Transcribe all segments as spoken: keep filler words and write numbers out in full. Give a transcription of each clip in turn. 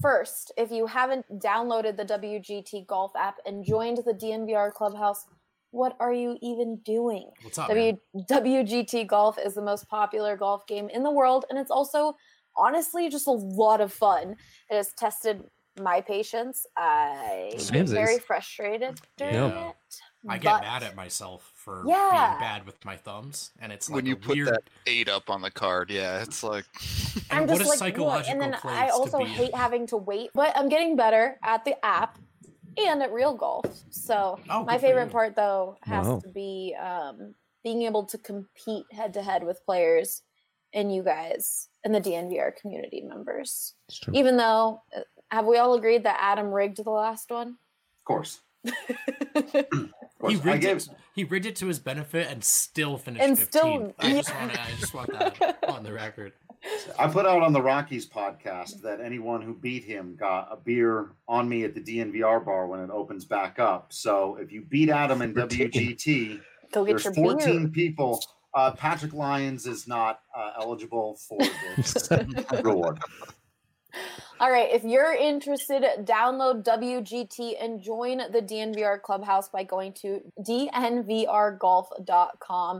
first, if you haven't downloaded the W G T Golf app and joined the D N V R Clubhouse, what are you even doing? What's up, w- man? W G T Golf is the most popular golf game in the world, and it's also, honestly, just a lot of fun. It has tested my patience. I get very frustrated during yeah. it. I get but... mad at myself for yeah. being bad with my thumbs, and it's like when you a put weird... that eight up on the card. Yeah, it's like. I'm and just what a like, psychological and then place I also to be hate having to wait, but I'm getting better at the app and at real golf. So oh, my favorite you. part, though, has wow. to be um, being able to compete head to head with players and you guys and the D N V R community members. Even though, have we all agreed that Adam rigged the last one? Of course. He rigged, gave... it, he rigged it to his benefit and still finished and fifteenth. Still, I, yeah. just wanna, I just want that on the record. I put out on the Rockies podcast that anyone who beat him got a beer on me at the D N V R bar when it opens back up. So if you beat Adam in W G T, Go get there's your fourteen beer. people. Uh, Patrick Lyons is not uh, eligible for this reward. All right, if you're interested, download W G T and join the D N V R Clubhouse by going to D N V R golf dot com.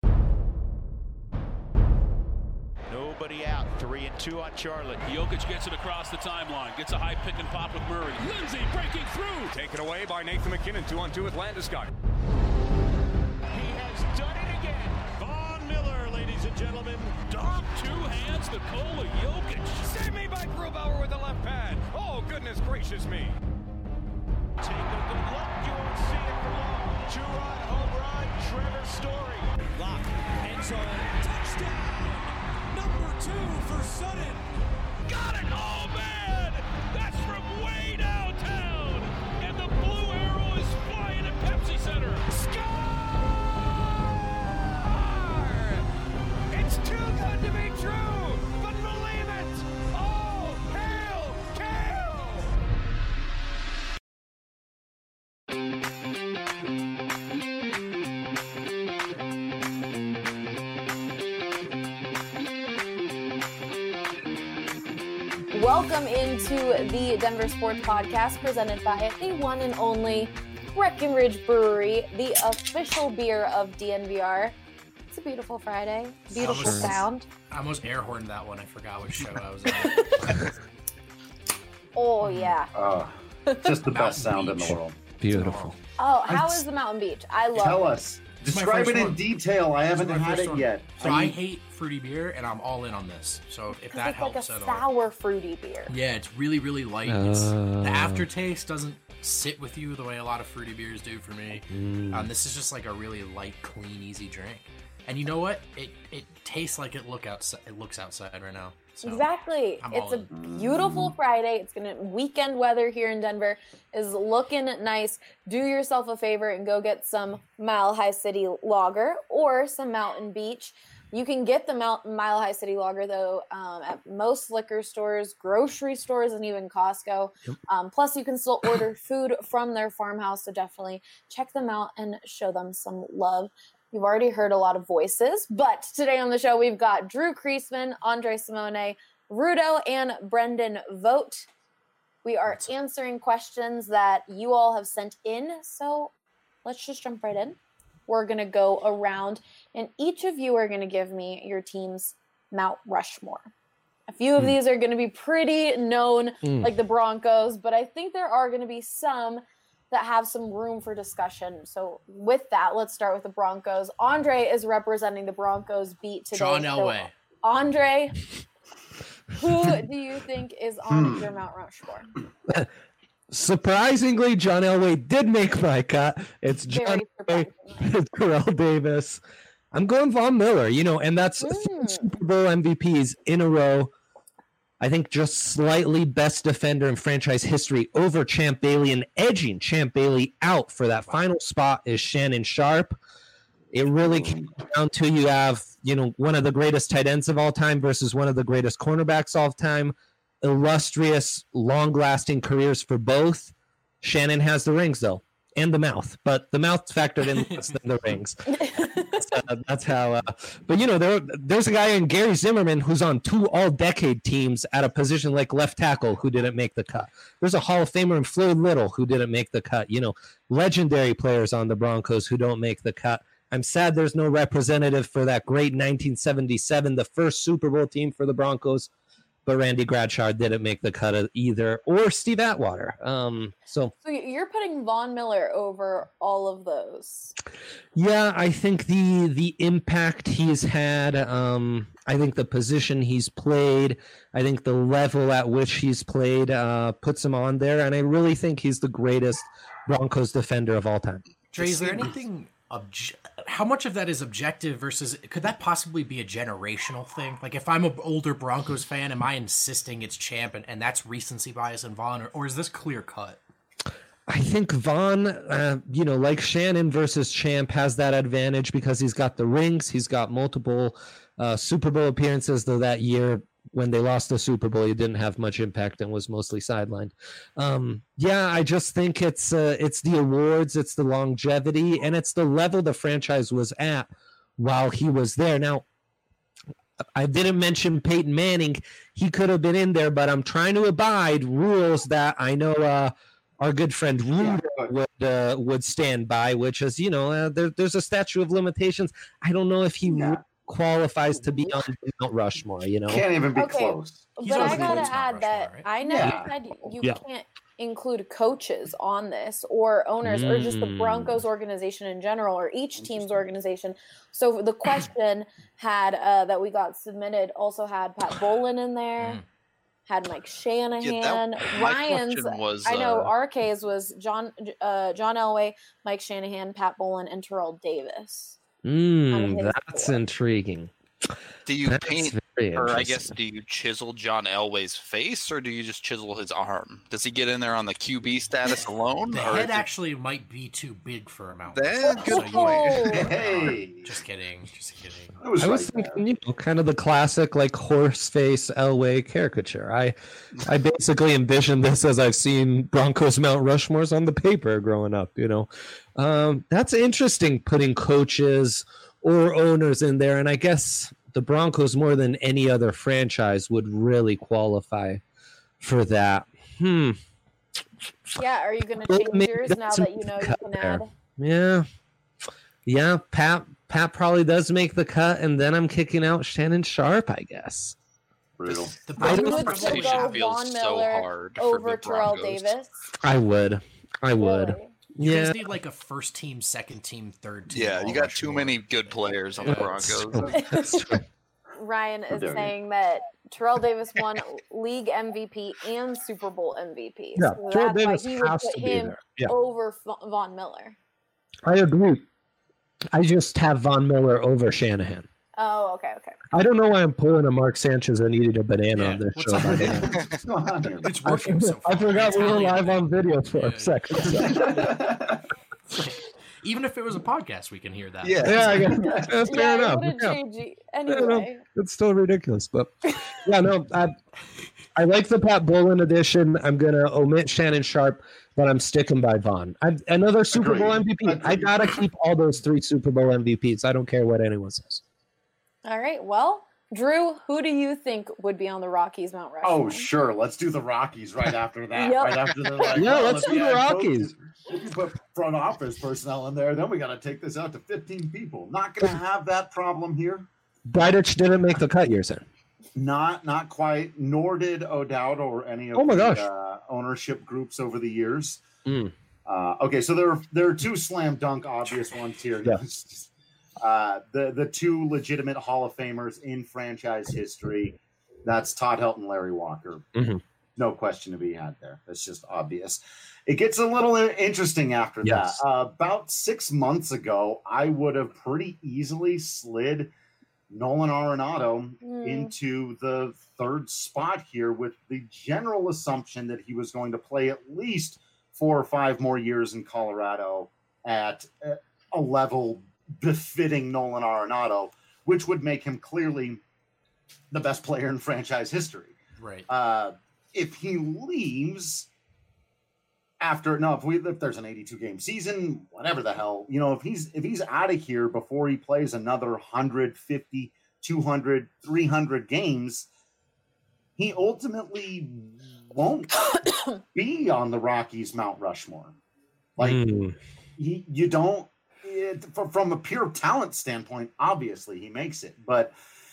Nobody out. Three and two on Charlotte. Jokic gets it across the timeline. Gets a high pick and pop with Murray. Lindsay breaking through. Taken away by Nathan McKinnon. Two on two with Landeskog. He has done it again. Von Miller, ladies and gentlemen. Dom two hands Nikola Jokic. Save me by Grubauer with the left pad. Oh, goodness gracious me. Take a good look. You won't see it for long. Two-run home run. Trevor Story. Lock. End zone. Touchdown. Number two for Sutton. Got it! Oh, man! That's from way downtown! And the blue arrow is flying at Pepsi Center. Score! It's too good to be true, but believe it! Oh, hail, hail! Welcome into the Denver Sports Podcast presented by the one and only Breckenridge Brewery, the official beer of D N V R. It's a beautiful Friday. Beautiful almost, sound. I almost air horned that one. I forgot which show I was on. Oh, yeah. Uh, just the best sound in the world. Beautiful. Oh, how is the Mountain Beach? I love Tell it. us. Describe it in one. detail. I haven't my had first it one. yet. So I I mean, hate fruity beer, and I'm all in on this. So if Because that it's helps like a at all. sour fruity beer. Yeah, it's really, really light. It's, Uh. the aftertaste doesn't sit with you the way a lot of fruity beers do for me. Mm. Um, this is just like a really light, clean, easy drink. And you know what? It it tastes like it look outside. It looks outside right now. So Exactly. I'm It's all a beautiful Friday. It's gonna weekend weather here in Denver is looking nice. Do yourself a favor and go get some Mile High City Lager or some Mountain Beach. You can get the Mount, Mile High City Lager though um, at most liquor stores, grocery stores, and even Costco. Yep. Um, plus, you can still order food from their farmhouse. So definitely check them out and show them some love. You've already heard a lot of voices, but today on the show, we've got Drew Kreisman, Andre Simone, Rudo, and Brendan Vogt. We are answering questions that you all have sent in, so let's just jump right in. We're going to go around, and each of you are going to give me your team's Mount Rushmore. A few of mm. these are going to be pretty known, mm. like the Broncos, but I think there are going to be some that have some room for discussion. So with that, let's start with the Broncos. Andre is representing the Broncos beat today. John Elway. So, Andre, who do you think is on Hmm. your Mount Rushmore? Surprisingly, John Elway did make my cut. It's John Very Elway, it's Terrell Davis. I'm going Von Miller, you know, and that's Mm. Super Bowl M V Ps in a row. I think just slightly best defender in franchise history over Champ Bailey, and edging Champ Bailey out for that final spot is Shannon Sharp. It really came down to you have, you know, one of the greatest tight ends of all time versus one of the greatest cornerbacks of all time. Illustrious, long-lasting careers for both. Shannon has the rings, though, and the mouth, but the mouth factored in less than the rings. uh, that's how. Uh, but you know, there there's a guy in Gary Zimmerman who's on two all-decade teams at a position like left tackle who didn't make the cut. There's a Hall of Famer in Floyd Little who didn't make the cut. You know, legendary players on the Broncos who don't make the cut. I'm sad there's no representative for that great nineteen seventy-seven, the first Super Bowl team for the Broncos. But Randy Bradshaw didn't make the cut either, or Steve Atwater. Um, so, so you're putting Von Miller over all of those. Yeah, I think the the impact he's had, um, I think the position he's played, I think the level at which he's played uh, puts him on there, and I really think he's the greatest Broncos defender of all time. Dre, is there anything... Obje- how much of that is objective versus could that possibly be a generational thing? Like if I'm an older Broncos fan, am I insisting it's Champ and, and that's recency bias and Vaughn, or, or is this clear cut? I think Vaughn, uh, you know, like Shannon versus Champ has that advantage because he's got the rings. He's got multiple uh, Super Bowl appearances, though that year when they lost the Super Bowl, he didn't have much impact and was mostly sidelined. Um, yeah, I just think it's uh, it's the awards, it's the longevity, and it's the level the franchise was at while he was there. Now, I didn't mention Peyton Manning. He could have been in there, but I'm trying to abide rules that I know uh, our good friend Rudy yeah, would uh, would stand by, which is, you know, uh, there, there's a statute of limitations. I don't know if he yeah. qualifies to be on Mount Rushmore, you know. Can't even be okay, close. But I gotta add that right? I know yeah. you said you yeah. can't include coaches on this or owners mm. or just the Broncos organization in general or each team's organization. So the question had uh, that we got submitted also had Pat Bowlen in there, mm. had Mike Shanahan, yeah, that, Ryan's. Was, I know uh, R K's was John uh, John Elway, Mike Shanahan, Pat Bowlen, and Terrell Davis. Mm, that's board. Intriguing. Do you that's paint, or I guess, do you chisel John Elway's face, or do you just chisel his arm? Does he get in there on the Q B status alone? The or head actually it... might be too big for a Mount. That's good so point. Hey. Just kidding. Just kidding. I was, I was right thinking, you know, kind of the classic like horse face Elway caricature. I, I basically envisioned this as I've seen Broncos Mount Rushmores on the paper growing up. You know, um, that's interesting. Putting coaches or owners in there, and I guess the Broncos more than any other franchise would really qualify for that. Hmm. Yeah, are you going to change yours now that you know you can there. add? Yeah. Yeah, Pat Pat probably does make the cut, and then I'm kicking out Shannon Sharp, I guess. Brutal. The You Broncos would conversation still go feels Von so Miller hard for over the Terrell Broncos. Davis. I would. I would. Really? You Yeah. guys need like a first team, second team, third team. Yeah, all you got too Rushmore. many good players on the Broncos. That's true. Ryan is dare you. saying that Terrell Davis won league M V P and Super Bowl M V P. Yeah, so Terrell that's why Davis he would has put to be him there. Yeah. over F- Von Miller. I agree. I just have Von Miller over Shanahan. Oh, okay, okay. I don't know why I'm pulling a Mark Sanchez and eating a banana Yeah, on this what's show. up? by the way. What's going on here? It's I working so far. I forgot we were Italian. live on video for Yeah. a second. Even if it was a podcast, we can hear that. Yeah. Yeah, I guess. That's fair yeah, enough. it wouldn't Yeah. change you. Yeah, no, Anyway. it's still ridiculous, but yeah, no, I, I like the Pat Bowlen edition. I'm gonna omit Shannon Sharp, but I'm sticking by Vaughn. I, another Super Agreed. Bowl M V P. I Agreed. gotta keep all those three Super Bowl M V Ps. I don't care what anyone says. All right, well, Drew, who do you think would be on the Rockies Mount Rushmore? Oh, sure. Let's do the Rockies right after that. Yep. Right after the like, Yeah, well, let's if do we the add Rockies. coaches, if you put front office personnel in there, then we got to take this out to fifteen people. Not going to have that problem here. Bridich didn't make the cut, you're saying? Not not quite, nor did O'Dowd or any of Oh my the gosh. uh, ownership groups over the years. Mm. Uh, okay, so there are, there are two slam dunk obvious ones here. Yeah. Uh, the, the two legitimate Hall of Famers in franchise history. That's Todd Helton, Larry Walker. Mhm. No question to be had there. That's just obvious. It gets a little interesting after Yes. that. Uh, about six months ago, I would have pretty easily slid Nolan Arenado Mm. into the third spot here with the general assumption that he was going to play at least four or five more years in Colorado at a level befitting Nolan Arenado, which would make him clearly the best player in franchise history. Right. Uh, if he leaves after no, if we if there's an eighty-two game season, whatever the hell, you know, if he's if he's out of here before he plays another one hundred fifty, two hundred, three hundred games, he ultimately won't be on the Rockies Mount Rushmore. Like mm. he, you don't it, from a pure talent standpoint, obviously he makes it, but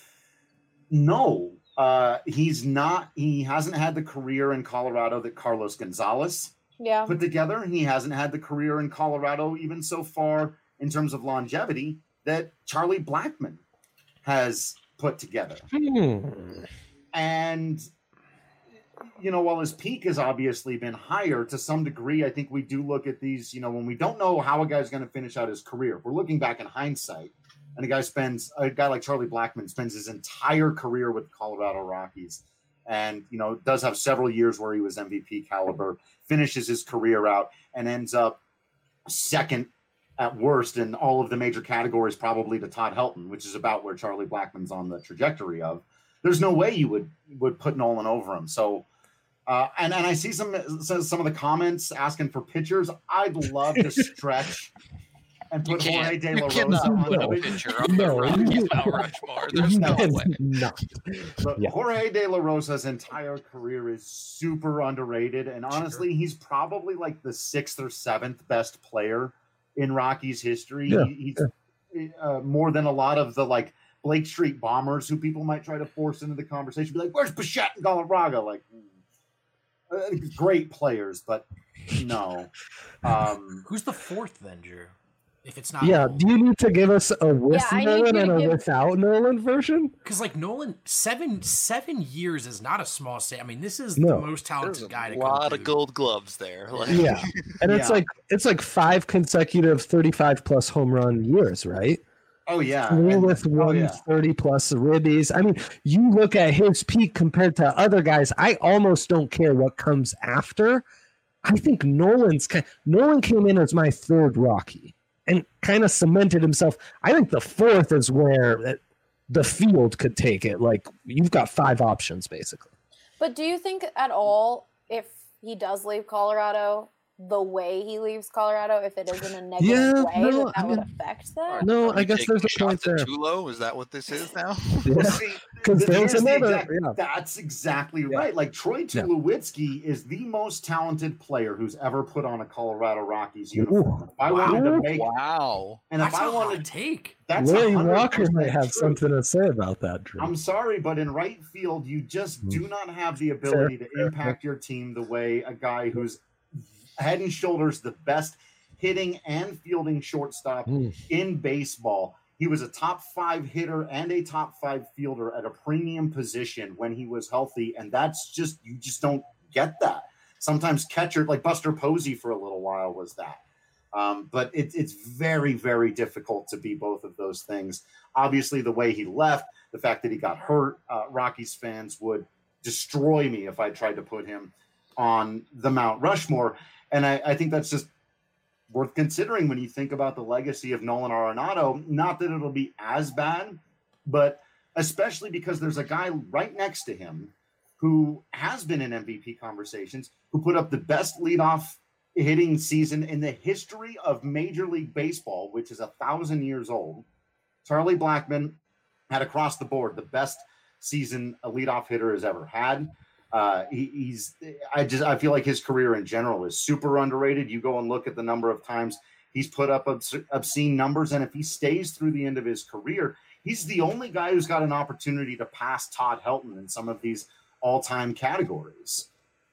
no, uh, he's not. He hasn't had the career in Colorado that Carlos Gonzalez yeah. put together. He hasn't had the career in Colorado, even so far in terms of longevity, that Charlie Blackmon has put together. Hmm. And, you know, while his peak has obviously been higher to some degree, I think we do look at these, you know, when we don't know how a guy's going to finish out his career, we're looking back in hindsight, and a guy spends, a guy like Charlie Blackmon spends his entire career with the Colorado Rockies, and, you know, does have several years where he was M V P caliber, finishes his career out, and ends up second at worst in all of the major categories, probably to Todd Helton, which is about where Charlie Blackmon's on the trajectory of. There's no way you would would put Nolan over him. So, uh, and and I see some some of the comments asking for pitchers. I'd love to stretch and put Jorge De La Rosa on the pitcher on the Rockies Mount Rushmore. There's no way. Not. But Yeah. Jorge De La Rosa's entire career is super underrated, and honestly, he's probably like the sixth or seventh best player in Rockies history. Yeah. He, he's uh, more than a lot of the like Blake Street Bombers, who people might try to force into the conversation, be like, "Where's Bichette and Galarraga?" Like, uh, great players, but no. Um, Who's the fourth then, Drew? If it's not, Yeah, Nolan. do you need to give us a with Yeah, I need Nolan you and to a give- without Nolan version? Because like Nolan, seven seven years is not a small state. I mean, this is No. the most talented There's guy a to lot come of through. gold gloves there. Like, Yeah, and it's Yeah. like it's like five consecutive thirty-five plus home run years, right? oh yeah, Three and- with oh, one yeah. thirty plus ribbies. I mean, you look at his peak compared to other guys. I almost don't care what comes after. I think Nolan's kind. Nolan came in as my third Rocky and kind of cemented himself. I think the fourth is where the field could take it. Like you've got five options basically. But do you think at all, if he does leave Colorado, the way he leaves Colorado, if it is in a negative Yeah, way, no, that, that I would mean- affect that? No, Are I we guess taking there's a point shots at there. Tulo? Is that what this is now? Well, see, Because th- there's here's the another. exact- Yeah. That's exactly right. Like Troy Yeah. Tulowitzki is the most talented player who's ever put on a Colorado Rockies Ooh. uniform. If I wanted to make, Wow. and if That's I a hot wanted, take. that's Larry one hundred Walker percent might have true. something to say about that, Drew. I'm sorry, but in right field, you just Mm. do not have the ability Fair, to fair, impact your team the way a guy who's head and shoulders the best hitting and fielding shortstop Mm. in baseball. He was a top five hitter and a top five fielder at a premium position when he was healthy. And that's just, you just don't get that. Sometimes catcher, like Buster Posey for a little while was that. Um, but it, it's very, very difficult to be both of those things. Obviously, the way he left, the fact that he got hurt, uh, Rockies fans would destroy me if I tried to put him on the Mount Rushmore. And I, I think that's just worth considering when you think about the legacy of Nolan Arenado. Not that it'll be as bad, but especially because there's a guy right next to him who has been in M V P conversations, who put up the best leadoff hitting season in the history of Major League Baseball, which is a thousand years old. Charlie Blackmon had across the board the best season a leadoff hitter has ever had. Uh, he, he's, I just, I feel like his career in general is super underrated. You go and look at the number of times he's put up obs- obscene numbers. And if he stays through the end of his career, he's the only guy who's got an opportunity to pass Todd Helton in some of these all-time categories.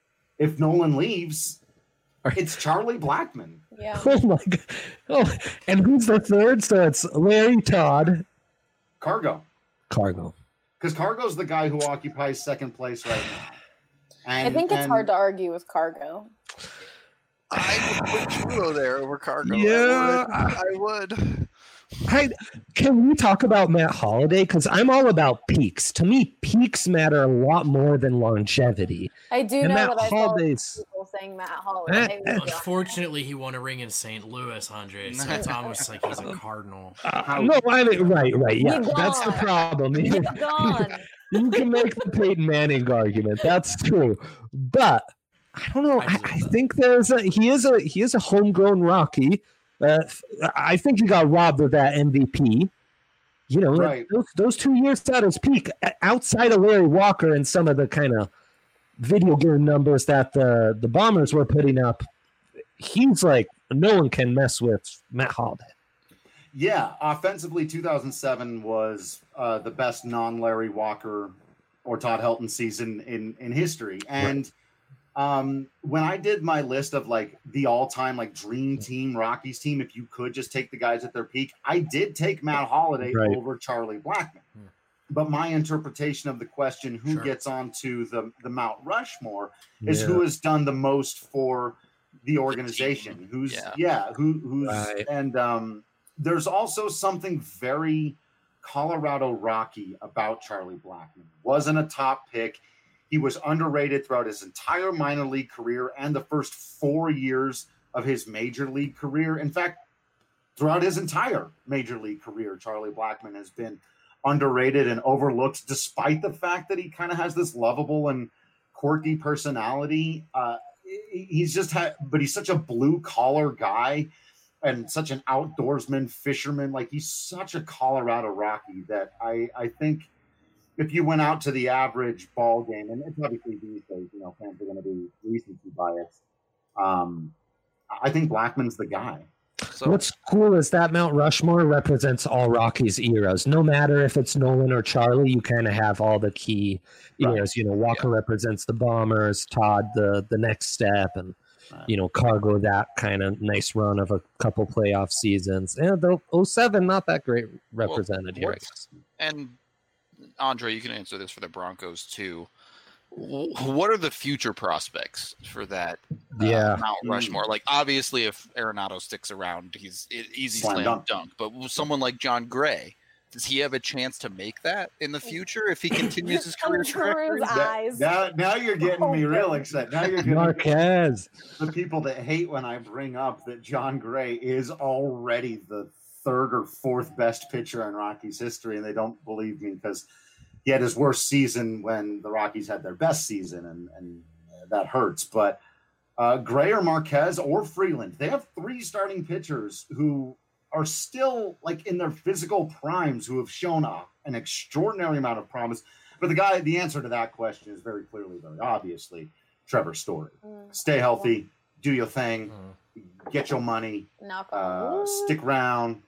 If Nolan leaves, it's Charlie Blackmon. Yeah. Oh my god! Oh, and who's the third? So it's Larry Todd, Cargo. Cargo. Because Cargo's the guy who occupies second place right now. And, I think it's and- hard to argue with Cargo. I would put Tulo there over Cargo. Yeah, I would. I would. I, can we talk about Matt Holliday? Because I'm all about peaks. To me, peaks matter a lot more than longevity. I do And know Matt that I saw Holliday's. people saying Matt Holliday. Eh, eh. was Unfortunately, he won a ring in Saint Louis, Andre. So it's almost like he's a Cardinal. Uh, no, I mean, right, right, yeah, You're that's the gone. problem. You're gone. You can make the Peyton Manning argument. That's true. But I don't know. I I, deserve I that. think there's a he is a he is a homegrown Rocky. Uh, I think he got robbed of that M V P. You know, Right. those those two years at his peak, outside of Larry Walker and some of the kind of video game numbers that the the Bombers were putting up, he's like no one can mess with Matt Holliday. Yeah, offensively, two thousand seven was uh, the best non-Larry Walker or Todd Helton season in in history. And um, when I did my list of like the all-time like dream team Rockies team, if you could just take the guys at their peak, I did take Matt Holliday Right. over Charlie Blackmon. Hmm. But my interpretation of the question, who Sure. gets onto the the Mount Rushmore, is Yeah. who has done the most for the organization. Who's Yeah. yeah, who who's Right. and um there's also something very Colorado Rocky about Charlie Blackmon. Wasn't a top pick. He was underrated throughout his entire minor league career and the first four years of his major league career. In fact, throughout his entire major league career, Charlie Blackmon has been underrated and overlooked, despite the fact that he kind of has this lovable and quirky personality. Uh, he's just had, but he's such a blue collar guy and such an outdoorsman, fisherman. Like he's such a Colorado Rocky that I, I think if you went out to the average ball game, and it's obviously these days, you know, fans are going to be recency biased. Um, I think Blackman's the guy. So What's cool is that Mount Rushmore represents all Rockies eras. No matter if it's Nolan or Charlie, you kind of have all the key Right. eras. You know, Walker represents the Bombers, Todd the the next step, and you know, Cargo that kind of nice run of a couple playoff seasons. And the oh seven, not that great represented here. I what's- guess. and Andre, you can answer this for the Broncos too. W- What are the future prospects for that uh, Yeah. Mount Rushmore? Like, obviously, if Arenado sticks around, he's e- easy Slam slam, dunk. dunk. But will someone like John Gray, does he have a chance to make that in the future if he continues his career trajectory? Drew's eyes. Now, now you're getting me real excited. Now you're getting Marquez. the people that hate when I bring up that John Gray is already the third or fourth best pitcher in Rockies history, and they don't believe me because he had his worst season when the Rockies had their best season, and, and that hurts. But uh, Gray or Marquez or Freeland, they have three starting pitchers who are still like in their physical primes, who have shown a, an extraordinary amount of promise. But the guy, the answer to that question is very clearly, very obviously, Trevor Story. Mm. Stay healthy, do your thing, Mhm. get your money, Knock uh, on wood. stick around,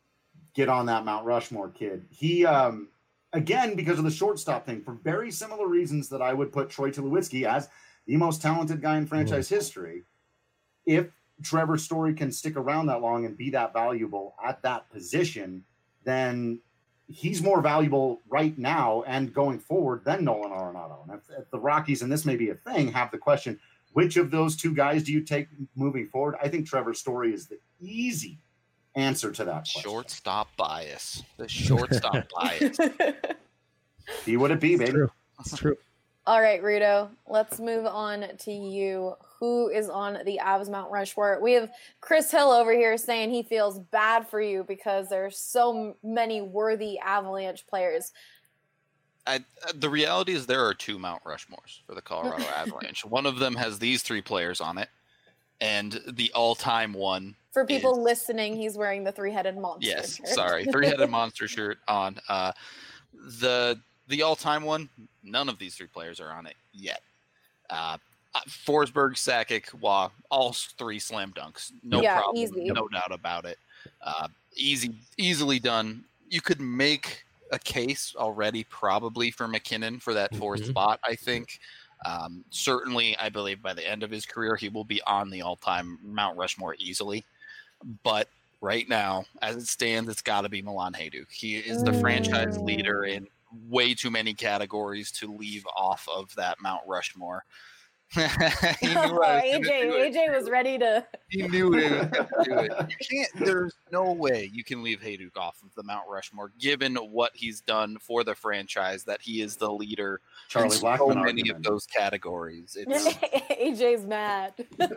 get on that Mount Rushmore kid. He, um, again, because of the shortstop thing, for very similar reasons that I would put Troy Tulowitzki as the most talented guy in franchise history. If Trevor Story can stick around that long and be that valuable at that position, then he's more valuable right now and going forward than Nolan Arenado. And if, if the Rockies, and this may be a thing, have the question, which of those two guys do you take moving forward? I think Trevor Story is the easy answer to that question. Shortstop bias. The shortstop bias. Be what it be, baby. True. It's true. All right, Rito, let's move on to you. Who is on the Avs Mount Rushmore? We have Chris Hill over here saying he feels bad for you because there's so many worthy Avalanche players. I, uh, the reality is there are two Mount Rushmores for the Colorado Avalanche. One of them has these three players on it, and the all-time one. For people is- listening, he's wearing the three-headed monster. Yes, shirt. sorry, three-headed monster shirt on. Uh, the the all-time one, none of these three players are on it yet. Uh, Forsberg, Sakic, Waugh, all three slam dunks, no Yeah, problem, easy. no doubt about it. Uh, easy, easily done. You could make a case already, probably for McKinnon for that fourth Mhm. spot. I think. Um, certainly, I believe by the end of his career, he will be on the all-time Mount Rushmore easily. But right now, as it stands, it's got to be Milan Hajduk. He is the franchise leader in way too many categories to leave off of that Mount Rushmore. He knew I was gonna A J, do it. A J was ready to. He knew he was going to do it. You can't. There's no way you can leave Hajduk off of the Mount Rushmore, given what he's done for the franchise. That he is the leader Charlie in so Blackmon many argument. of those categories. It's, A J's mad.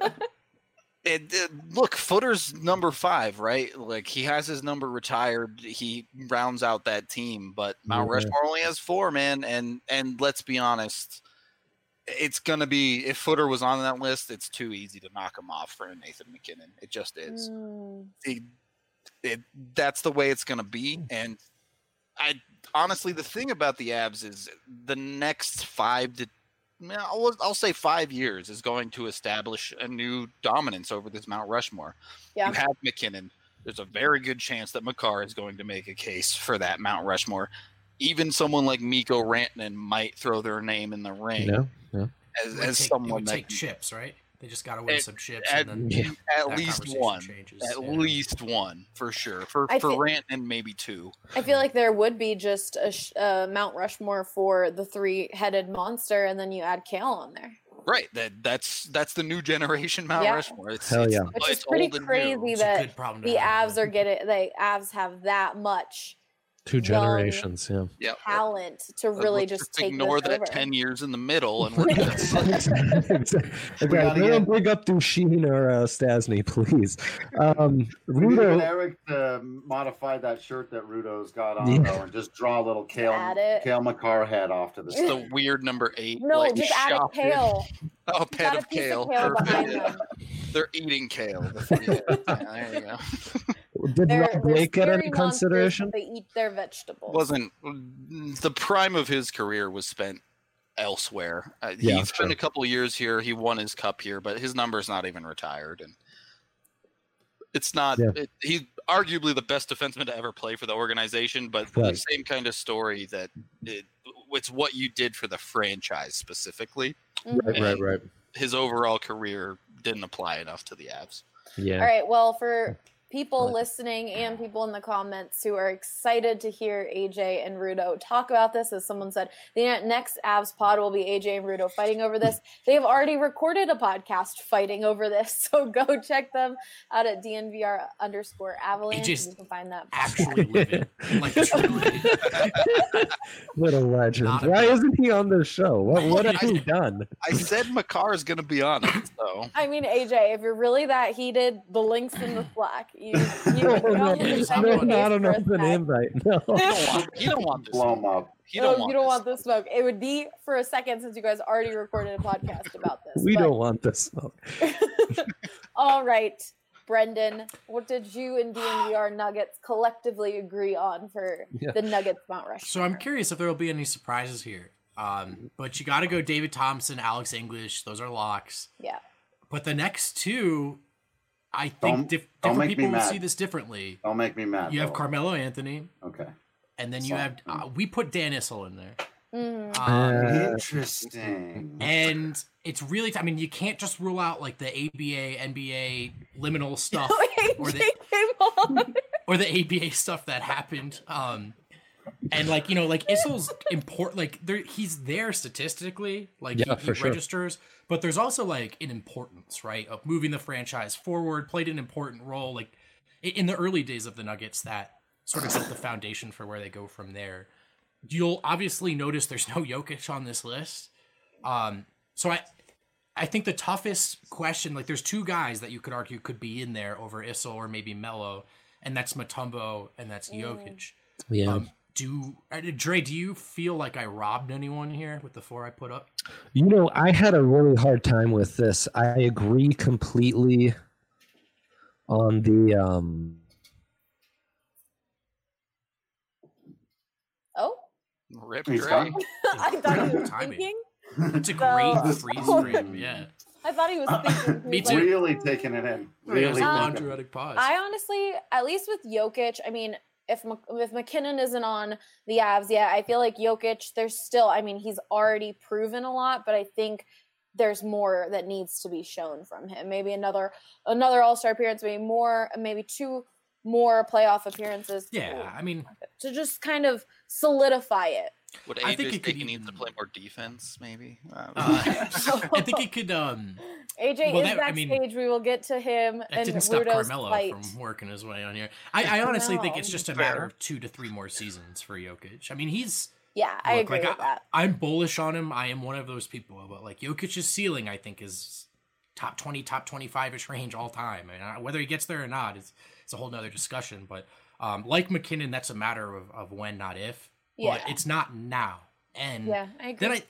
it, it- look, Footer's number five, right? Like he has his number retired. He rounds out that team, but Mount Yeah. Rushmore only has four, man. And and let's be honest, it's going to be, if Footer was on that list, it's too easy to knock him off for Nathan MacKinnon. It just is. Mm. It, it, that's the way it's going to be. And I honestly, the thing about the Avs is the next five to, I'll, I'll say five years is going to establish a new dominance over this Mount Rushmore. Yeah. You have MacKinnon. There's a very good chance that Makar is going to make a case for that Mount Rushmore. Even someone like Mikko Rantanen might throw their name in the ring. No, no. As, It would as take, someone it would that take chips, right? They just got to win At- some chips, at, and then Yeah. at that least conversation one, changes, at yeah. least one for sure. For I for thi- Rantanen, maybe two. I feel like there would be just a sh- uh, Mount Rushmore for the three-headed monster, and then you add Kale on there, Right. That that's that's the new generation Mount Yeah. Rushmore. It's, Hell it's, yeah. which it's is pretty old and new. crazy It's a that good problem to the have, Avs yeah. are getting. The Avs have that much Two Young. generations. Yeah. Yep. talent to really Let's just take ignore this that over. ten years in the middle, and we're good. Exactly. We gotta Don't get- bring up Duchesne or uh, Stasny, please. Um, We need to get Rudo, Eric to modify that shirt that Rudo's got on Yeah. though, and just draw a little Kale Add it. Kale McCarr head off to the It's side. the weird number eight. No, like, just add a shop. Kale. Oh, a Just pet add a of piece kale. of kale Perfect. behind Yeah. them. They're eating kale. The- yeah, there you go. did They're, Rob they're Blake get scary any monsters, consideration? but They eat their vegetables. Wasn't the prime of his career was spent elsewhere. Uh, Yeah, he spent true. a couple years here. He won his cup here, but his number's not even retired, and it's not. Yeah. It, he's arguably the best defenseman to ever play for the organization, but the Right. same kind of story that it, it's what you did for the franchise specifically. Mhm. Right, right, right. His overall career didn't apply enough to the Avs. Yeah. All right. Well, for people Right. listening and people in the comments who are excited to hear A J and Rudo talk about this, as someone said, the next Avs pod will be A J and Rudo fighting over this. They have already recorded a podcast fighting over this, so go check them out at D N V R underscore Avalanche. A J's and you can find that. Actually live it. Like, truly. What a legend. Not a Why bad- isn't he on the show? What, what have I- he done? I said Makar is going to be on it, so I mean, A J, if you're really that heated, the link's in the Slack. You, you No, can no, go and no, send no, your case not an for us open back. invite. No. he don't want, he don't want this. Blow him up. He No, don't want you don't this. want the smoke. It would be for a second since you guys already recorded a podcast about this. We but- don't want the smoke. All right, Brendan, what did you and D N V R Nuggets collectively agree on for Yeah. the Nuggets Mount Rushmore? So I'm curious if there will be any surprises here. Um, but you got to go David Thompson, Alex English. Those are locks. Yeah. But the next two, I think Don't- dif- don't different make me people will mad. see this differently. Don't make me mad. You have though. Carmelo Anthony, Okay. and then you So- have uh, we put Dan Issel in there. Mhm. Um, Uh, Interesting. and it's really, I mean, you can't just rule out like the A B A, N B A liminal stuff or A J the came on. or the A B A stuff that happened. Um, and like, you know, like Issel's important, like there, he's there statistically, like Yeah, he, for he sure. registers, but there's also like an importance, right, of moving the franchise forward, played an important role, like i- in the early days of the Nuggets that sort of built the foundation for where they go from there. You'll obviously notice there's no Jokic on this list. Um, so I, I think the toughest question, like there's two guys that you could argue could be in there over Issel or maybe Melo, and that's Mutombo and that's Jokic. yeah. Um, do uh, Dre, do you feel like I robbed anyone here with the four I put up? You know, I had a really hard time with this. I agree completely on the um Oh, Rip He's Dre. gone. I thought he was Timing. thinking. That's a great So- freeze frame. Yeah, I thought he was thinking. He Me was too. like, Really taking it in. really Really. Um, thinking. quadratic pause. I honestly, at least with Jokic, I mean, if Mc- if McKinnon isn't on the Avs yet, I feel like Jokic, there's still, I mean, he's already proven a lot, but I think there's more that needs to be shown from him. Maybe another another All Star appearance, maybe more, maybe two more playoff appearances. yeah, I mean, to just kind of solidify it. Would I A J think it think could he needs to even- play more defense? Maybe. Uh, uh, I think it could. Um, A J Well, is that- I mean, backstage. We will get to him That and didn't stop Rudo's Carmelo fight. from working his way on here. I, I honestly think No. it's just a Fair. matter of two to three more seasons for Jokic. I mean, he's Yeah, I look, agree like with I, that. I'm bullish on him. I am one of those people, but like Jokic's ceiling, I think is top twenty, top twenty-five ish range all time. And I- whether he gets there or not is it's a whole nother discussion. But um, like McKinnon, that's a matter of, of when, not if. Yeah. But it's not now. And Yeah, I agree. then I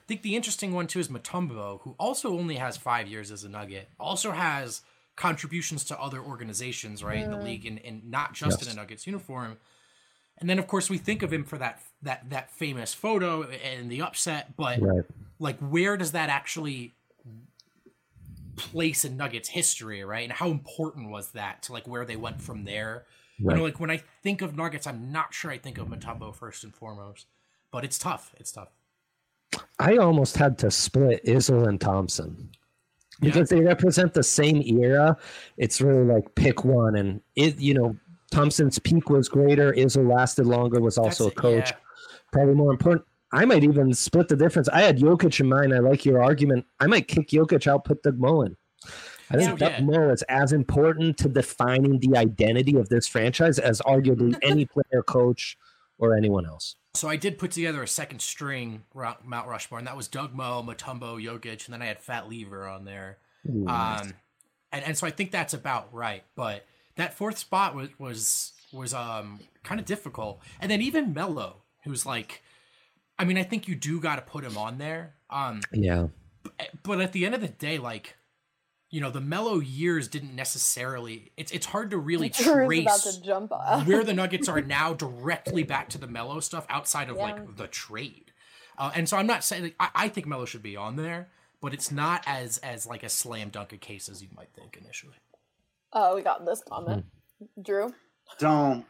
think the interesting one too is Mutombo, who also only has five years as a Nugget, also has contributions to other organizations, right, mm. in the league, and, and not just yes. in a Nuggets uniform. And then, of course, we think of him for that that that famous photo and the upset, but right. like, where does that actually place in Nuggets history, right? And how important was that to like where they went from there? Right. You know, like when I think of Nuggets, I'm not sure I think of Mutombo first and foremost, but it's tough. It's tough. I almost had to split Izzo and Thompson because yeah. they represent the same era. It's really like pick one, and it, you know, Thompson's peak was greater. Izzo lasted longer, was also That's, a coach. Yeah. Probably more important. I might even split the difference. I had Jokic in mind. I like your argument. I might kick Jokic out, put Doug Mullen. I think yeah, Doug yeah. Mullen is as important to defining the identity of this franchise as arguably any player, coach, or anyone else. So I did put together a second string Mount Rushmore, and that was Doug Mo, Mutombo, Jokic, and then I had Fat Lever on there. Ooh, nice. Um, and, and so I think that's about right. But that fourth spot was was was um kind of difficult. And then even Melo, who's like, I mean, I think you do got to put him on there. Um, yeah. But at the end of the day, like, you know, the Melo years didn't necessarily. It's it's hard to really trace about to jump off. where the Nuggets are now directly back to the Melo stuff outside of yeah. like the trade. Uh, and so I'm not saying like, I, I think Melo should be on there, but it's not as as like a slam dunk a case as you might think initially. Oh, we got this comment, hmm. Drew. Don't.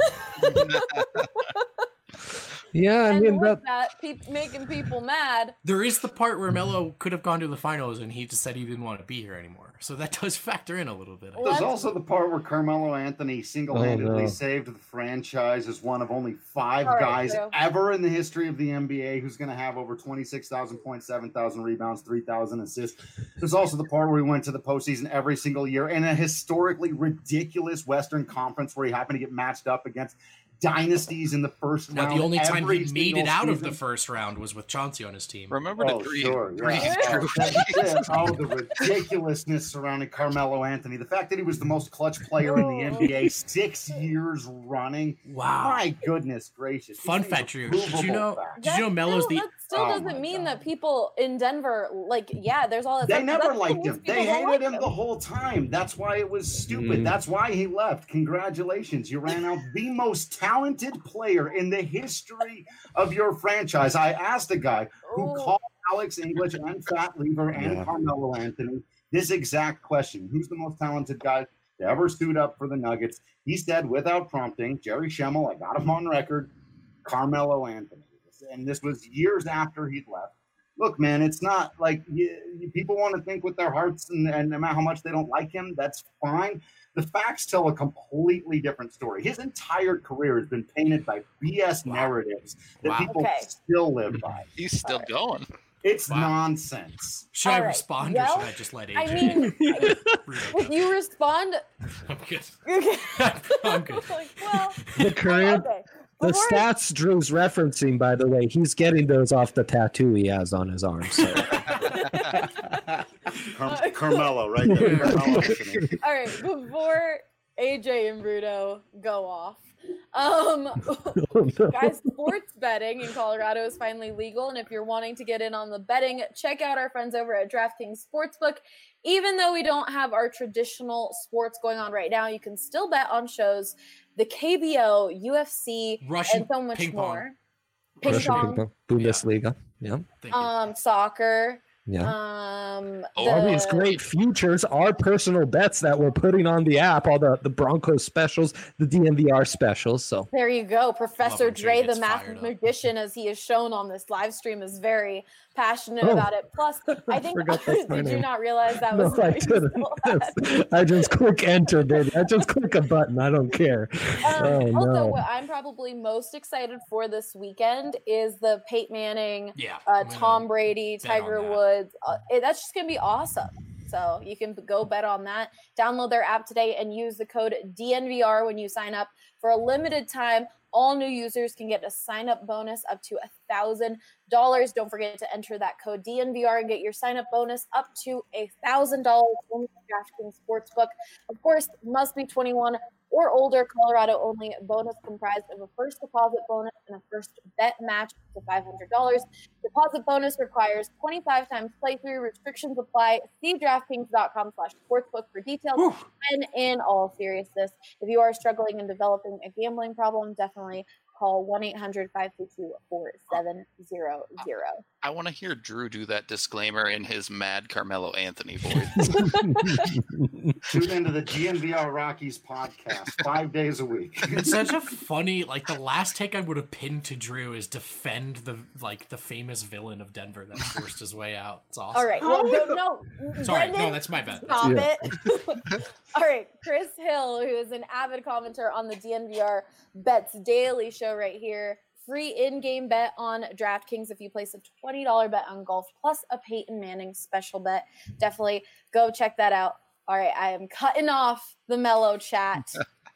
Yeah, I and mean, with but that, pe- making people mad. There is the part where Melo could have gone to the finals and he just said he didn't want to be here anymore. So that does factor in a little bit. There's also the part where Carmelo Anthony single-handedly oh, no. saved the franchise as one of only five right, guys Drew. ever in the history of the N B A who's going to have over twenty-six thousand points, seven thousand rebounds, three thousand assists. There's also the part where he went to the postseason every single year in a historically ridiculous Western Conference where he happened to get matched up against dynasties in the first now, round. The only time he made it out season. of the first round was with Chauncey on his team. Remember oh, the three? Sure, yeah. oh, oh, the ridiculousness surrounding Carmelo Anthony. The fact that he was the most clutch player in the N B A six years running. Wow. My goodness gracious. Fun fact, Drew. Did you know, did you know Melo's still, the... That still oh doesn't mean God. that people in Denver, like, yeah, there's all that They stuff, never liked him. They hated like him him the whole time. That's why it was stupid. Mm. That's why he left. Congratulations. You ran out the most talented player in the history of your franchise. I asked a guy who Ooh. called Alex English and Fat Lever and yeah. Carmelo Anthony this exact question. Who's the most talented guy to ever suit up for the Nuggets? He said, without prompting, Jerry Schemmel, I got him on record, Carmelo Anthony. And this was years after he'd left. Look, man, it's not like you, you, people want to think with their hearts, and, and no matter how much they don't like him, that's fine. The facts tell a completely different story. His entire career has been painted by B S wow. narratives that wow. people okay. still live by. He's still right. going. It's wow. nonsense. Should All I right. respond well, or should I just let A J? I mean, if you respond, I'm good. Okay. I'm good. like, well, the career, okay. the Before stats I... Drew's referencing, by the way, he's getting those off the tattoo he has on his arm. So. Car- Carmelo, right there. Carmelo. All right, before A J and Bruno go off, um, oh, no. guys, sports betting in Colorado is finally legal, and if you're wanting to get in on the betting, check out our friends over at DraftKings Sportsbook. Even though we don't have our traditional sports going on right now, you can still bet on shows, the K B O, U F C, Russian and so much ping more. Pong. Ping pong, pong, Bundesliga, yeah. Thank you. um, soccer. Yeah. Um, Oh, All the- these great futures are personal bets that we're putting on the app, all the, the Broncos specials, the D N V R specials. So There you go. Professor when Jay Dre, the gets math fired up. magician, as he is shown on this live stream, is very passionate Oh. about it. Plus, I think, forgot that's my did you name. not realize that no, was I what you didn't. still had? I just click enter, baby. I just click a button. I don't care. Um, Oh, also, no. what I'm probably most excited for this weekend is the Peyton Manning, Yeah. uh, I'm gonna Tom Brady, bet on Tiger that. Woods. Uh, it, that's just going to be awesome. So you can go bet on that. Download their app today and use the code D N V R when you sign up. For a limited time, all new users can get a sign-up bonus up to one thousand dollars. Don't forget to enter that code D N V R and get your sign-up bonus up to one thousand dollars from DraftKings Sportsbook. Of course, must be twenty-one or older. Colorado only. Bonus comprised of a first deposit bonus and a first bet match to five hundred dollars. Deposit bonus requires twenty-five times playthrough. Restrictions apply. See DraftKings.com slash sportsbook for details. Whew. And in all seriousness, if you are struggling in developing a gambling problem, definitely call one eight hundred five two two four seven zero zero. I want to hear Drew do that disclaimer in his mad Carmelo Anthony voice. Tune into the G N V R Rockies podcast five days a week. It's such a funny, like the last take I would have pinned to Drew is defend the like the famous villain of Denver that forced his way out. It's awesome. All right. Well, no, no. Sorry, Brendan, no, that's my bad. Stop Yeah. it. All right. Chris Hill, who is an avid commenter on the D N V R Bets Daily show right here. Free in-game bet on DraftKings if you place a twenty dollars bet on golf plus a Peyton Manning special bet. Definitely go check that out. All right, I am cutting off the Mellow chat.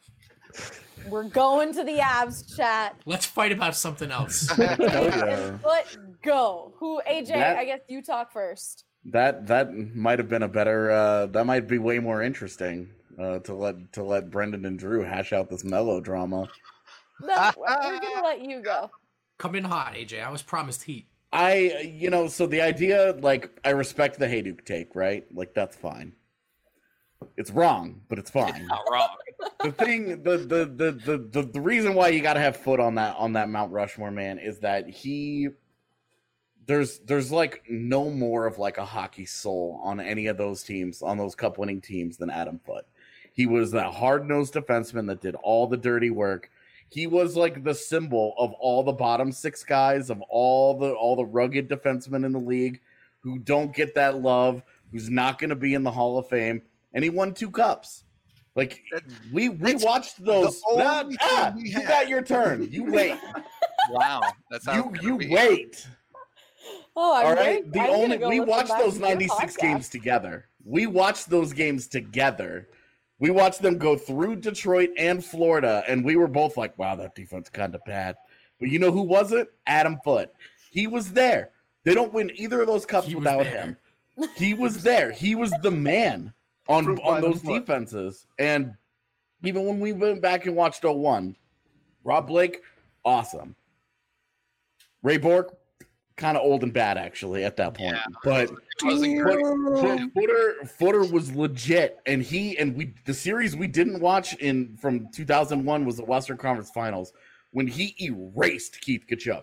We're going to the Avs chat. Let's fight about something else. Oh, yeah. Let's go. Who, A J, That- I guess you talk first. That that might have been a better. Uh, that might be way more interesting uh, to let to let Brendan and Drew hash out this melodrama. No, we're going to let you go. Come in hot, A J. I was promised heat. I, you know, so the idea, like, I respect the Hayduk take, right? Like, that's fine. It's wrong, but it's fine. Not wrong. The thing, the the, the the the the reason why you got to have Foot on that on that Mount Rushmore, man, is that he. There's there's like no more of like a hockey soul on any of those teams, on those cup winning teams, than Adam Foote. He was that hard nosed defenseman that did all the dirty work. He was like the symbol of all the bottom six guys, of all the all the rugged defensemen in the league who don't get that love, who's not going to be in the Hall of Fame, and he won two cups. Like we we watched those. Ah, ah, you got your turn. You wait. Wow, that's how you it's you gonna be. wait. Oh, I'm All very- right. The I'm gonna only go we listen watched back those to your ninety-six podcast. games together. We watched those games together. We watched them go through Detroit and Florida, and we were both like, "Wow, that defense kind of bad." But you know who wasn't? Adam Foote. He was there. They don't win either of those cups He was without there. him. He was there. He was the man on Proof on by the those foot. defenses. And even when we went back and watched oh one, Rob Blake, awesome. Ray Bork, kind of old and bad actually at that point. Yeah. But It wasn't great. Foot- Footer Footer was legit, and he and we the series we didn't watch in from two thousand one was the Western Conference Finals when he erased Keith Kachuk,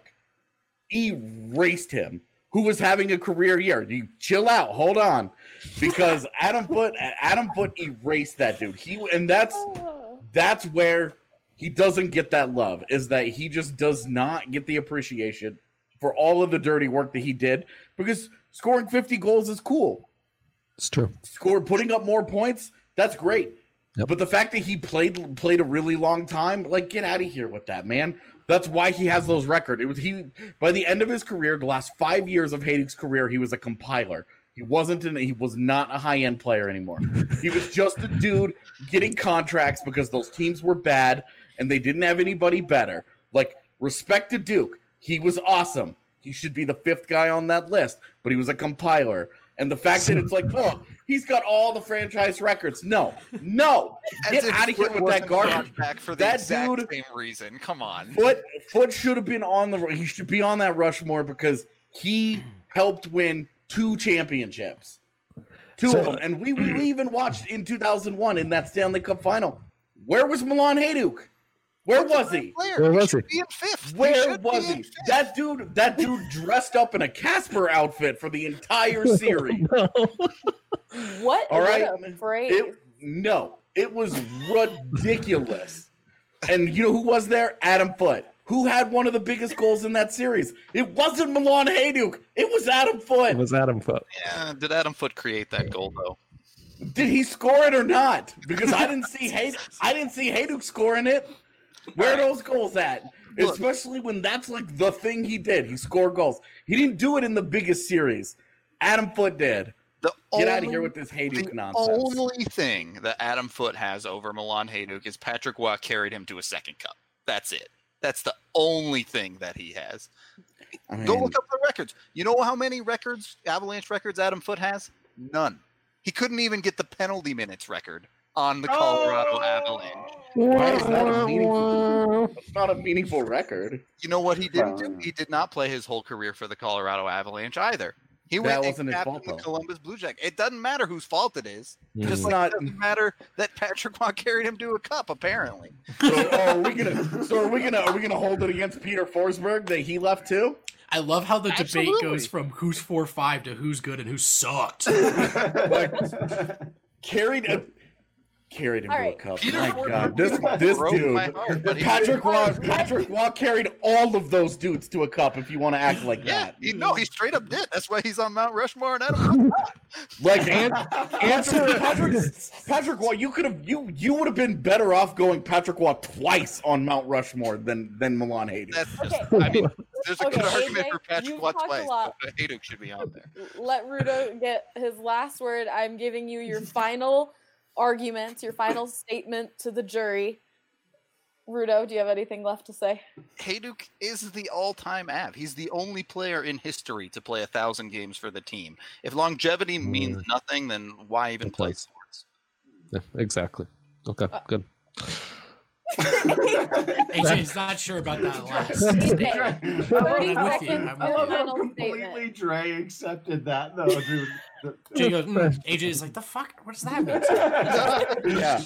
erased him, who was having a career year. You chill out, hold on, because Adam Foote Adam Foote erased that dude. He and that's that's where he doesn't get that love, is that he just does not get the appreciation for all of the dirty work that he did, because scoring fifty goals is cool. It's true. Score putting up more points, that's great. Yep. But the fact that he played played a really long time, like, get out of here with that, man. That's why he has those records. It was he by the end of his career, the last five years of Hayduk's career, he was a compiler. He wasn't an, he was not a high end player anymore. He was just a dude getting contracts because those teams were bad and they didn't have anybody better. Like, respect to Duke. He was awesome. He should be the fifth guy on that list, but he was a compiler. And the fact that it's like, oh, he's got all the franchise records. No, no, get As if out of here Foot with that wasn't garbage. brought back for the That exact dude- same reason. Come on. Foot Foot should have been on the. He should be on that Rushmore because he helped win two championships, two So- of them. And we, we even watched in two thousand one in that Stanley Cup final. Where was Milan Hayduk? Where was he? Player. Where He was should he? Be in fifth. He Where should was be in he? fifth. That dude, that dude dressed up in a Casper outfit for the entire series. What All right. a phrase. It, no, it was ridiculous. And you know who was there? Adam Foote, who had one of the biggest goals in that series. It wasn't Milan Hayduk. It was Adam It Foote. was Adam Foote. Yeah, did Adam Foote create that goal though? Did he score it or not? Because I didn't see Hayduk. I didn't see Hayduk scoring it. Where are those goals at? Look. Especially when that's like the thing he did. He scored goals. He didn't do it in the biggest series. Adam Foote did. The Get only, out of here with this Hayduk the nonsense. only thing that Adam Foote has over Milan Hayduk is Patrick Waugh carried him to a second cup. That's it. That's the only thing that he has. I mean, Go look up the records. You know how many records, Avalanche records, Adam Foote has? None. He couldn't even get the penalty minutes record on the Colorado Oh! Avalanche. Why is that a meaningful? That's not a meaningful record. You know what he didn't do? Uh, He did not play his whole career for the Colorado Avalanche either. He That went and wasn't his captained fault, the though. Columbus Blue Jackets. It doesn't matter whose fault it is. Mm. Just It's like not- it doesn't matter that Patrick Waugh carried him to a cup, apparently. So, oh, are we gonna? So are we gonna? Are we gonna hold it against Peter Forsberg that he left too? I love how the Absolutely. debate goes from who's four five to who's good and who sucked. Like, carried a. Carried him All to right. a cup. Peter My Forsberg God, this this broke dude, my heart, but he- Patrick Waugh, Patrick Waugh carried all of those dudes to a cup. If you want to act like Yeah, that, he, no, he straight up did. That's why he's on Mount Rushmore and Adam. like an, answer Patrick Patrick Waugh, you could have you you would have been better off going Patrick Waugh twice on Mount Rushmore than than Milan Hayduk. That's just, Okay. I mean, there's a Okay, good argument A J, for Patrick you've Waugh talked a twice, lot. but Hayduk should be on there. Let Rudo get his last word. I'm giving you your final argument, your final statement to the jury. Rudo, do you have anything left to say? Hayduk is the all-time Av. He's the only player in history to play a thousand games for the team. If longevity means nothing, then why even play place. sports? Yeah, exactly. Okay, good. A J's not sure about that last. A J, statement. thirty I'm with you, seconds I'm of with a you. final Completely statement. Dre accepted that though, dude. Jay goes, mm. A J is like, the fuck? What does that mean? Yeah.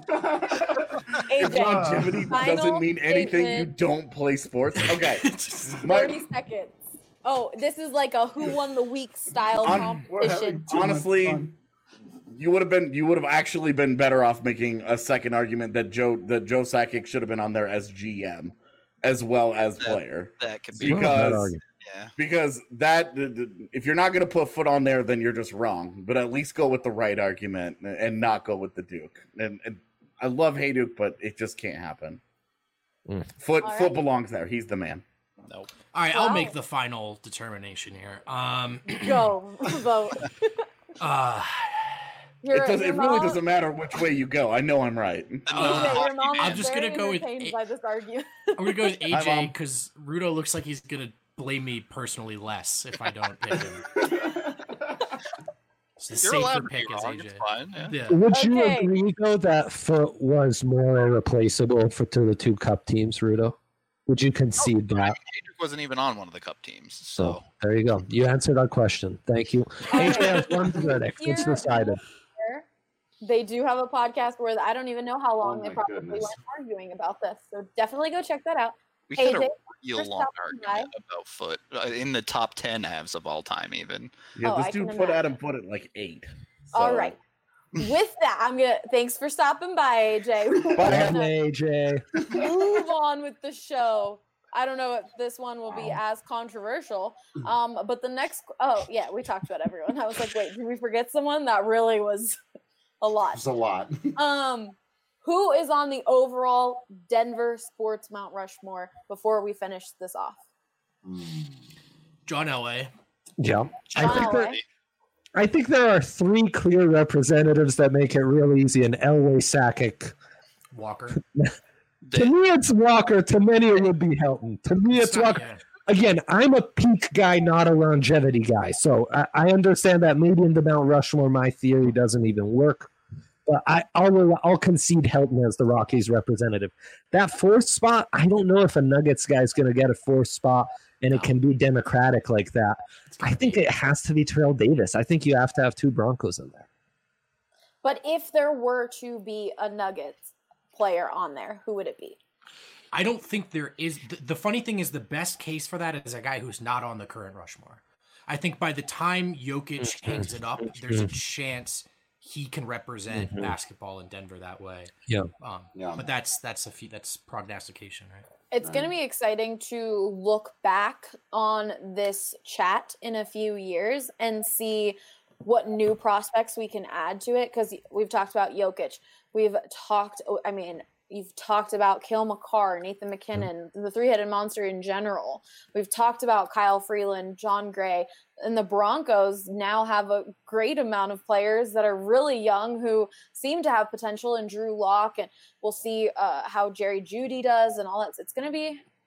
If A J, longevity final doesn't mean anything, you statement. don't play sports. Okay. My- thirty seconds. Oh, this is like a who won the week style On- We're having competition. too much Honestly, fun. you would have been you would have actually been better off making a second argument that Joe that Joe Sakic should have been on there as G M as well as That- player. That could be. Because Yeah. because that if you're not going to put foot on there, then you're just wrong. But at least go with the right argument and not go with the Duke. And, and I love Hayduk, but it just can't happen. Mm. Foot All foot right. belongs there. He's the man. Nope. All right, I'll Wow. make the final determination here. Um, Go vote. uh, Your, it does, your it really mom- doesn't matter which way you go. I know I'm right. A J, Uh, your mom I'm is just very gonna go with entertained A- by this argument. I'm gonna go with A Hi, J Mom. because Rudo looks like he's gonna blame me personally less if I don't pick him. It's a You're allowed safer to be pick as wrong. A J. It's fine. Yeah. Yeah. Would you Okay. agree though that Foot was more irreplaceable for to the two cup teams, Rudo? Would you concede I mean, that? Hayduk wasn't even on one of the cup teams, So so there you go. You answered our question. Thank you. A J has one verdict. It's Here- decided. They do have a podcast where I don't even know how long Oh they my probably goodness. went arguing about this. So definitely go check that out. we A had a J, real first long up, argument about Foot uh, in the top ten halves of all time, even. Yeah, Oh, this I can dude put imagine. Adam Foot at like eight. All So- right. With that, I'm gonna thanks for stopping by, A J. We're Bye, gonna A J. move on with the show. I don't know if this one will be as controversial. Um, but the next oh yeah, we talked about everyone. I was like, wait, did we forget someone? That really was a lot. It's a lot. Um, who is on the overall Denver sports Mount Rushmore before we finish this off? John Elway. Yeah. I John think, Elway. that, I think there are three clear representatives that make it real easy, and Elway, Sakic. Walker. To me, it's Walker. To many, it would be Helton. To me, it's not- Walker. yeah. Again, I'm a peak guy, not a longevity guy. So I, I understand that maybe in the Mount Rushmore, my theory doesn't even work. But I, I'll, I'll concede Helton as the Rockies representative. That fourth spot, I don't know if a Nuggets guy is going to get a fourth spot and it can be democratic like that. I think it has to be Terrell Davis. I think you have to have two Broncos in there. But if there were to be a Nuggets player on there, who would it be? I don't think there is. The, the funny thing is, the best case for that is a guy who's not on the current Rushmore. I think by the time Jokic hangs it up, there's a chance he can represent Mhm. basketball in Denver that way. Yeah. Um, Yeah. But that's that's a few, that's prognostication, right? It's going to be exciting to look back on this chat in a few years and see what new prospects we can add to it. Because we've talked about Jokic. We've talked, I mean, you've talked about Cale Makar, Nathan McKinnon, the three-headed monster in general. We've talked about Kyle Freeland, John Gray, and the Broncos now have a great amount of players that are really young who seem to have potential in Drew Lock, and we'll see uh, how Jerry Jeudy does and all that. It's going to be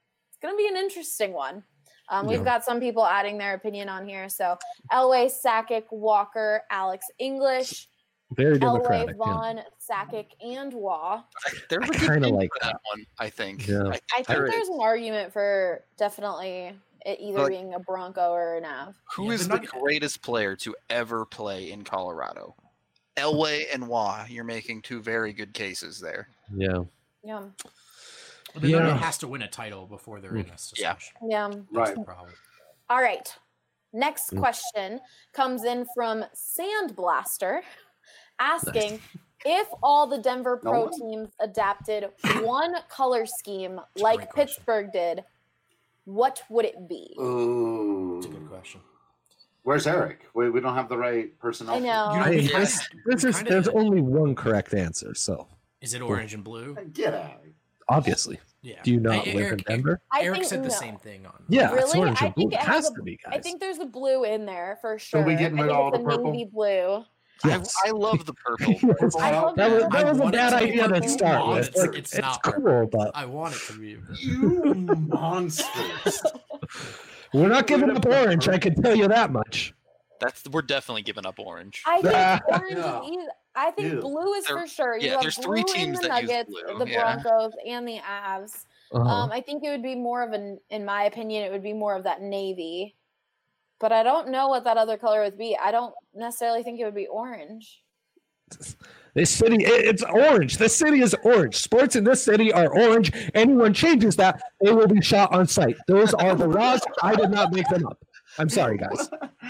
going to be an interesting one. Um, we've Yeah. got some people adding their opinion on here. So Elway, Sakic, Walker, Alex English, Very Elway, democratic. Yeah. Vaughn, Sakic, and Waugh. There's a I good kinda team like for that one, I think. Yeah. I, I think there there's is. an argument for definitely it either Like- being a Bronco or an Av. Who Yeah, is they're the not- greatest player to ever play in Colorado? Elway and Waugh. You're making two very good cases there. Yeah. Yeah. But Yeah. nobody has to win a title before they're in this Yeah. discussion. Yeah. That's Right. the problem. All right. Next Mm. question comes in from Sandblaster asking if all the Denver No Pro one? teams adapted one color scheme like great question. Pittsburgh did, what would it be? Ooh. That's a good question. Where's Eric? We, we don't have the right personnel. I know. You know, I, we this, kinda- this we is kinda- there's only one correct answer, so Is it orange and blue? Get out. obviously. Yeah. Do you not Hey, live Eric, in Denver? I Eric think said the no. same thing on. Yeah, it's Really? orange I and blue. think It it has has a- to be, guys. I think there's a blue in there for sure. So we getting I rid think of all it's the a purple? navy blue. Yes. I, I love the purple. Yes. I love That was, the that was a want it bad to be idea to purple. start No, with. it's- Like, it's it's not cool, purple. but I want it to be. You monsters. we're not giving up orange. I can tell you that much. That's we're definitely giving up orange. I think Ah. orange Yeah. is either. I think Ew. blue is There- for sure. You yeah, have there's blue three in teams the that use Nuggets, blue, the yeah. Broncos, and the Avs. Uh-huh. Um, I think it would be more of an, in my opinion, it would be more of that navy. But I don't know what that other color would be. I don't necessarily think it would be orange. This city, it- it's orange. This city is orange. Sports in this city are orange. Anyone changes that, they will be shot on sight. Those are the laws. I did not make them up. I'm sorry, guys.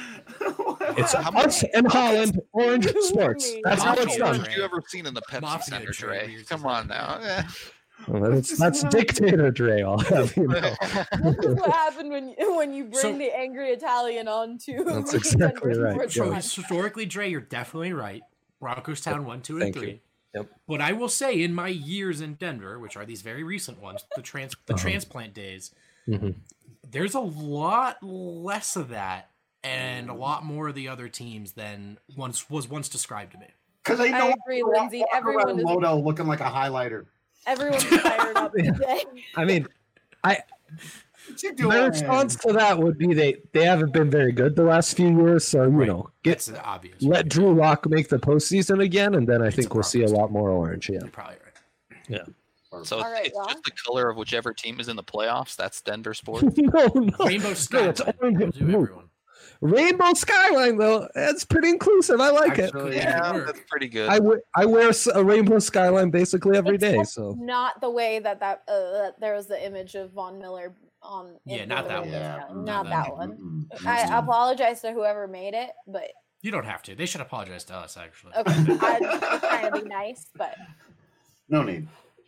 It's How us and Holland, orange sports. That's how How it's much done. orange have you ever seen in the Pepsi Mafia Center, Dre Dre? weird Come as on now. Eh. Well, that's, that's dictator Dre. I'll have you know. This is what happened when you, when you bring So- the angry Italian onto That's the exactly Denver right. Sports So One. historically, Dre, you're definitely right. Broncos Town one, two, and Thank you. three. Yep. But I will say, in my years in Denver, which are these very recent ones, the trans the Uh-huh. transplant days, Mhm. there's a lot less of that, and a lot more of the other teams than once was once described to me. Because I know I agree, Lindsay. Everyone is Moto looking like a highlighter. everyone's fired up Yeah. today. I mean, I What you doing? my response to that would be they they haven't been very good the last few years. So you Right. know, get That's obvious. let Drew Lock make the postseason again, and then I It's think a we'll see a progress. lot more orange. Yeah. You're probably right. So All right, it's well. just the color of whichever team is in the playoffs. That's Denver sports. no, no. Rainbow No, Sky. it's orange and do blue. everyone. Rainbow Skyline though, that's pretty inclusive. I like Actually, it. Yeah, work. that's pretty good. I, w- I wear s- a rainbow skyline basically every day. Except So not the way that that uh, that there was the image of Von Miller on. in Yeah, not the that Rainbow one. Sky. Yeah, Not not that that one. Mm-mm. I apologize to whoever made it, but You don't have to. They should apologize to us, actually. okay, I'm just trying to be nice, but No need.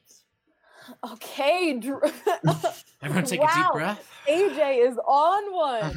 okay. Drew, Everyone take a Wow. deep breath. A J is on one.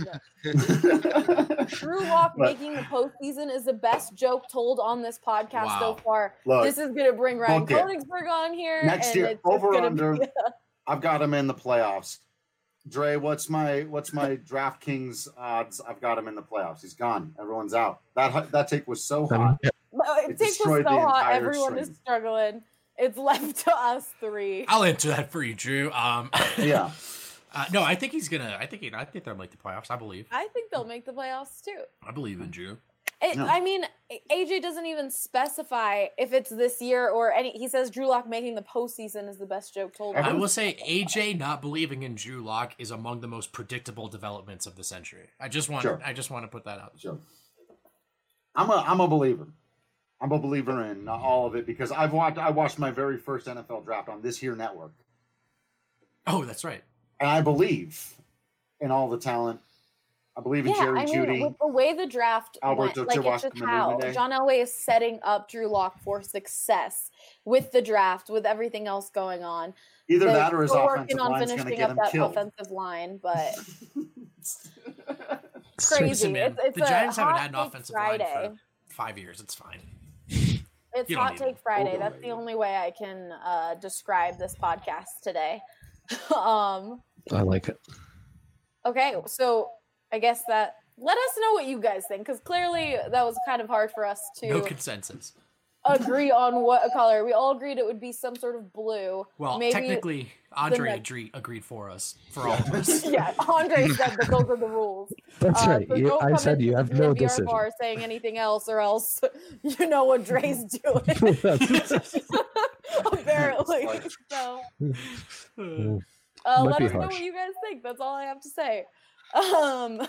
Drew Lock But- making the postseason is the best joke told on this podcast so Wow. far. Look, this is gonna bring Ryan book it. Koenigsberg on here Next and year, it's just over gonna under. be I've got him in the playoffs. Dre, what's my what's my DraftKings odds? I've got him in the playoffs. He's gone. Everyone's out. That that take was so hot. It It takes was destroyed so the hot. entire Everyone is stream. struggling. It's left to us three. I'll answer that for you, Drew. Um, Yeah. uh, no, I think he's gonna. I think he, I think they'll make the playoffs. I believe. I think they'll make the playoffs too. I believe in Drew. It, No. I mean, A J doesn't even specify if it's this year or any. He says Drew Lock making the postseason is the best joke told. I Everyone's- will say A J not believing in Drew Lock is among the most predictable developments of the century. I just want. Sure. I just want to put that out. Sure. I'm a I'm a believer. I'm a believer in all of it because I've watched I watched my very first N F L draft on this here network, Oh, that's right. and I believe in all the talent. I believe in Yeah, Jerry I mean, Jeudy. with the way the draft Alberto went, like it's Chihuahua just how Kamene. John Elway is setting up Drew Lock for success with the draft, with everything else going on. Either They're that or his still offensive working on line's going to finishing get up him that killed. offensive line, but Listen, crazy. man, It's, it's the a Giants haven't hot had an take offensive Friday. line for five years. It's fine. It's You don't Hot need Take it. Friday. That's the Overrated. only way I can uh, describe this podcast today. um, I like it. okay, so I guess that let us know what you guys think because clearly that was kind of hard for us to. No consensus. agree on what color. We all agreed it would be some sort of blue. Well, Maybe technically, Andre next- agreed, agreed for us, for all of us. yeah, Andre said that those are the rules. That's Uh, right. so You, don't I come said into you the have no D M V R decision. bar saying anything else, or else you know what Dre's doing. Apparently. So, Mm, uh, Might let be us know harsh. what you guys think. That's all I have to say. Um.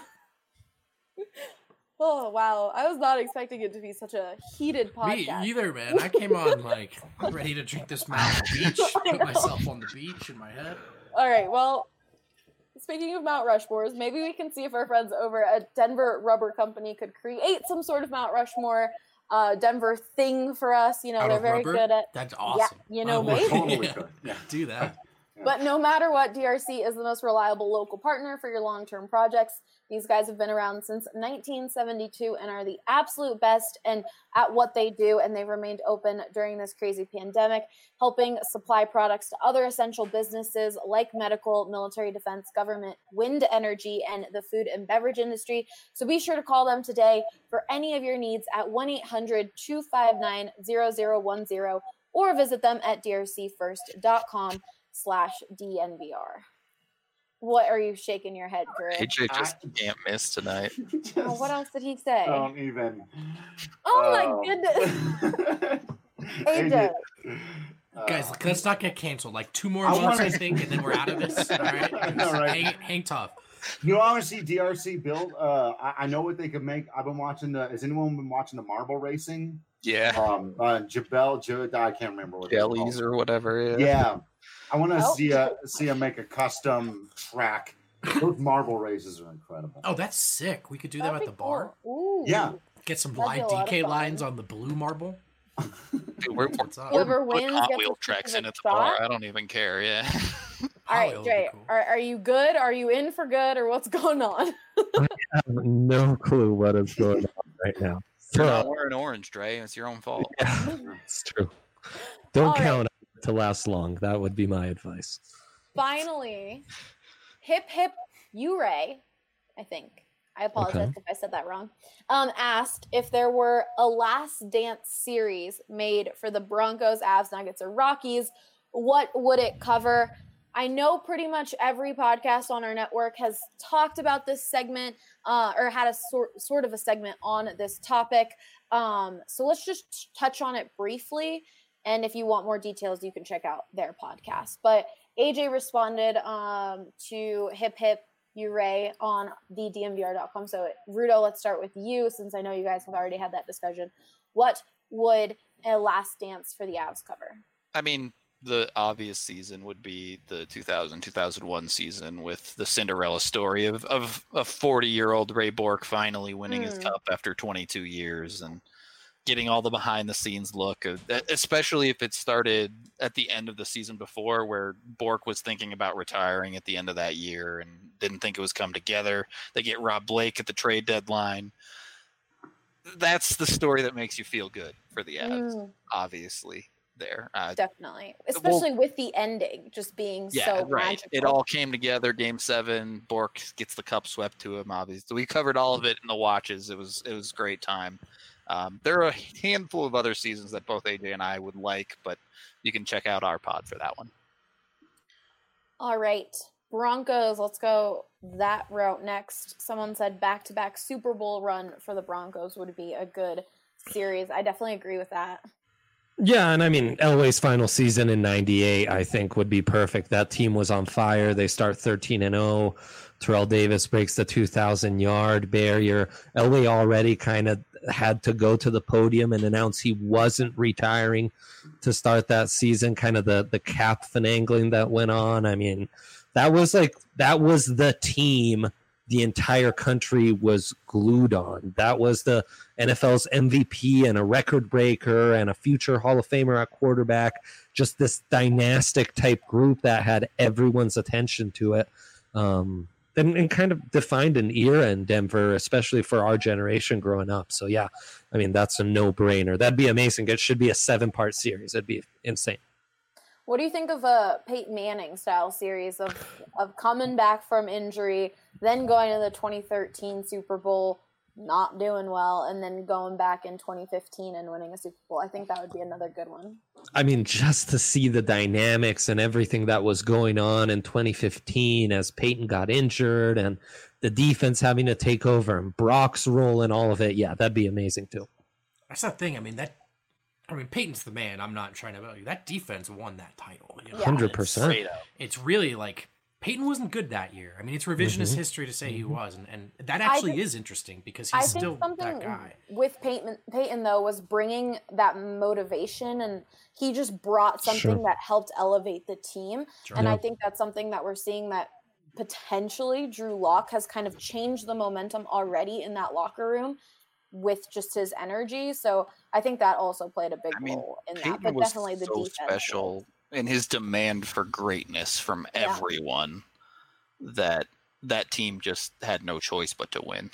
Oh wow! I was not expecting it to be such a heated Me podcast. either, man. I came on like ready to drink this Mount Beach, put myself on the beach in my head. All right. Well, speaking of Mount Rushmores, maybe we can see if our friends over at Denver Rubber Company could create some sort of Mount Rushmore uh, Denver thing for us. You know, Out they're of very rubber? good at. That's awesome. Yeah, you know, I would maybe. Totally yeah, could. Yeah. do that. But no matter what, D R C is the most reliable local partner for your long-term projects. These guys have been around since nineteen seventy-two and are the absolute best and at what they do, and they've remained open during this crazy pandemic, helping supply products to other essential businesses like medical, military defense, government, wind energy, and the food and beverage industry. So be sure to call them today for any of your needs at one eight hundred two five nine zero zero one zero or visit them at d r c first dot com slash D N V R. What are you shaking your head, Drew? A J just I- can't miss tonight. Just Oh, what else did he say? Don't even. oh my Oh. goodness. A J. A J. Guys, Uh, let's not get canceled. Like two more I months, wanna- I think, and then we're out of this. All right? I know, right? Hang, hang tough. You know, I want to see D R C build. Uh, I, I know what they could make. I've been watching the. Has anyone been watching the marble racing? Yeah, Um, uh, Jabel, J- I can't remember what they're jellies called. or whatever. Yeah. Yeah, I want to Oh. see a see him make a custom track. Those marble races are incredible. Oh, that's sick. We could do that That'd at be the bar. cool. Ooh. Yeah. Get some That'd be live a lot of D K fun. lines on the blue marble. Dude, we're, we're, What's up? we're Whoever putting wins Hot gets a Wheel tracks in specific at the bar. shot. I don't even care. Yeah. All Hot right, Wheel would be Dre, cool. are, are you good? Are you in for good, or what's going on? I have no clue what is going on right now. You're So, not wearing orange, Dre. It's your own fault. yeah, it's true. Don't All right. count on it to last long. That would be my advice. Finally, Hip Hip Uray, I think. I apologize Okay. if I said that wrong. Um, asked if there were a Last Dance series made for the Broncos, Avs, Nuggets, or Rockies, what would it cover? I know pretty much every podcast on our network has talked about this segment uh, or had a sort sort of a segment on this topic. Um, so let's just touch on it briefly. And if you want more details, you can check out their podcast. But A J responded um, to Hip Hip Uray on the D M V R dot com. So Rudo, let's start with you since I know you guys have already had that discussion. What would a Last Dance for the Avs cover? I mean, the obvious season would be the two thousand, two thousand one season with the Cinderella story of, of a forty-year-old Ray Bork finally winning his Hmm. cup after twenty-two years and getting all the behind-the-scenes look, of, especially if it started at the end of the season before where Bork was thinking about retiring at the end of that year and didn't think it was come together. They get Rob Blake at the trade deadline. That's the story that makes you feel good for the Avs, Mm, obviously. There, uh, definitely. Especially with the ending just being yeah, so right. magical. It all came together. Game seven, Bork gets the cup swept to him. Obviously, we covered all of it in the watches. It was it was a great time. Um, there are a handful of other seasons that both A J and I would like, but you can check out our pod for that one. All right. Broncos, let's go that route next. Someone said back-to-back Super Bowl run for the Broncos would be a good series. I definitely agree with that. Yeah, and I mean Elway's final season in ninety-eight, I think, would be perfect. That team was on fire. They start thirteen and oh. Terrell Davis breaks the two thousand yard barrier. Elway already kind of had to go to the podium and announce he wasn't retiring to start that season. Kind of the the cap finagling that went on. I mean, that was like that was the team the entire country was glued on. That was the N F L's M V P and a record breaker and a future Hall of Famer at quarterback. Just this dynastic type group that had everyone's attention to it. Um, and, and kind of defined an era in Denver, especially for our generation growing up. So, yeah, I mean, that's a no-brainer. That'd be amazing. It should be a seven-part series. It'd be insane. What do you think of a Peyton Manning style series of, of coming back from injury, then going to the twenty thirteen Super Bowl, not doing well, and then going back in twenty fifteen and winning a Super Bowl. I think that would be another good one. I mean, just to see the dynamics and everything that was going on in twenty fifteen as Peyton got injured and the defense having to take over and Brock's role and all of it. Yeah, that'd be amazing too. That's the thing. I mean, that, I mean, Peyton's the man. I'm not trying to tell you. That defense won that title. You know? one hundred percent. It's, it's really like, Peyton wasn't good that year. I mean, it's revisionist mm-hmm. history to say he was, and, and that actually think, is interesting because he's I still think something that guy. With Peyton, Peyton, though, was bringing that motivation, and he just brought something Sure. that helped elevate the team. Sure. And Yeah. I think that's something that we're seeing that potentially Drew Lock has kind of changed the momentum already in that locker room with just his energy. So I think that also played a big I mean, role in Peyton that. But was definitely the so defense. special in his demand for greatness from Yeah. everyone that that team just had no choice but to win.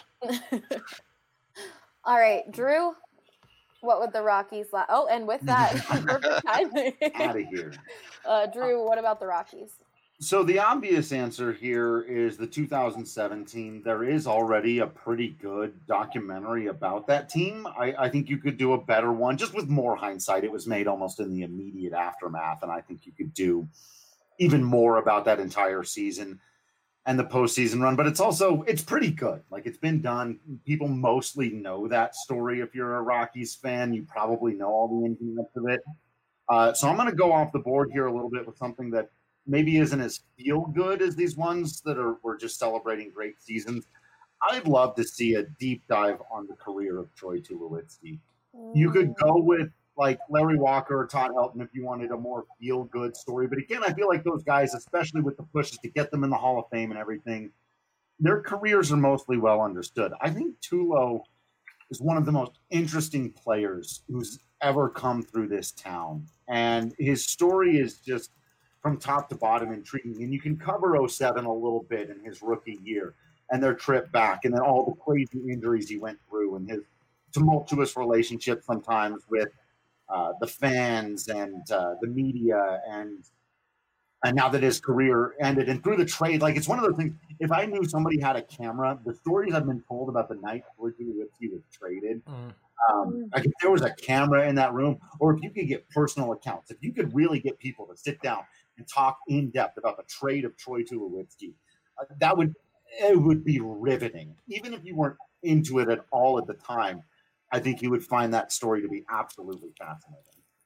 All right, Drew, what would the Rockies la- Oh, and with that, perfect timing. Out of here. Uh, Drew, what about the Rockies? So the obvious answer here is the two thousand seven team. There is already a pretty good documentary about that team. I, I think you could do a better one, just with more hindsight. It was made almost in the immediate aftermath, and I think you could do even more about that entire season and the postseason run. But it's also, it's pretty good. Like, it's been done. People mostly know that story. If you're a Rockies fan, you probably know all the ins and outs of it. Uh, so I'm going to go off the board here a little bit with something that maybe isn't as feel good as these ones that are we're just celebrating great seasons. I'd love to see a deep dive on the career of Troy Tulowitzki. You could go with like Larry Walker or Todd Helton if you wanted a more feel good story. But again, I feel like those guys, especially with the pushes to get them in the Hall of Fame and everything, their careers are mostly well understood. I think Tulo is one of the most interesting players who's ever come through this town. And his story is just from top to bottom intriguing. And you can cover oh seven a little bit in his rookie year and their trip back and then all the crazy injuries he went through and his tumultuous relationship sometimes with uh, the fans and uh, the media and and now that his career ended and through the trade, like it's one of those things, if I knew somebody had a camera, the stories I've been told about the night before Tulowitzki was traded, mm. Um, like if there was a camera in that room, or if you could get personal accounts, if you could really get people to sit down and talk in depth about the trade of Troy Tulowitzki, uh, that would it would be riveting. Even if you weren't into it at all at the time, I think you would find that story to be absolutely fascinating.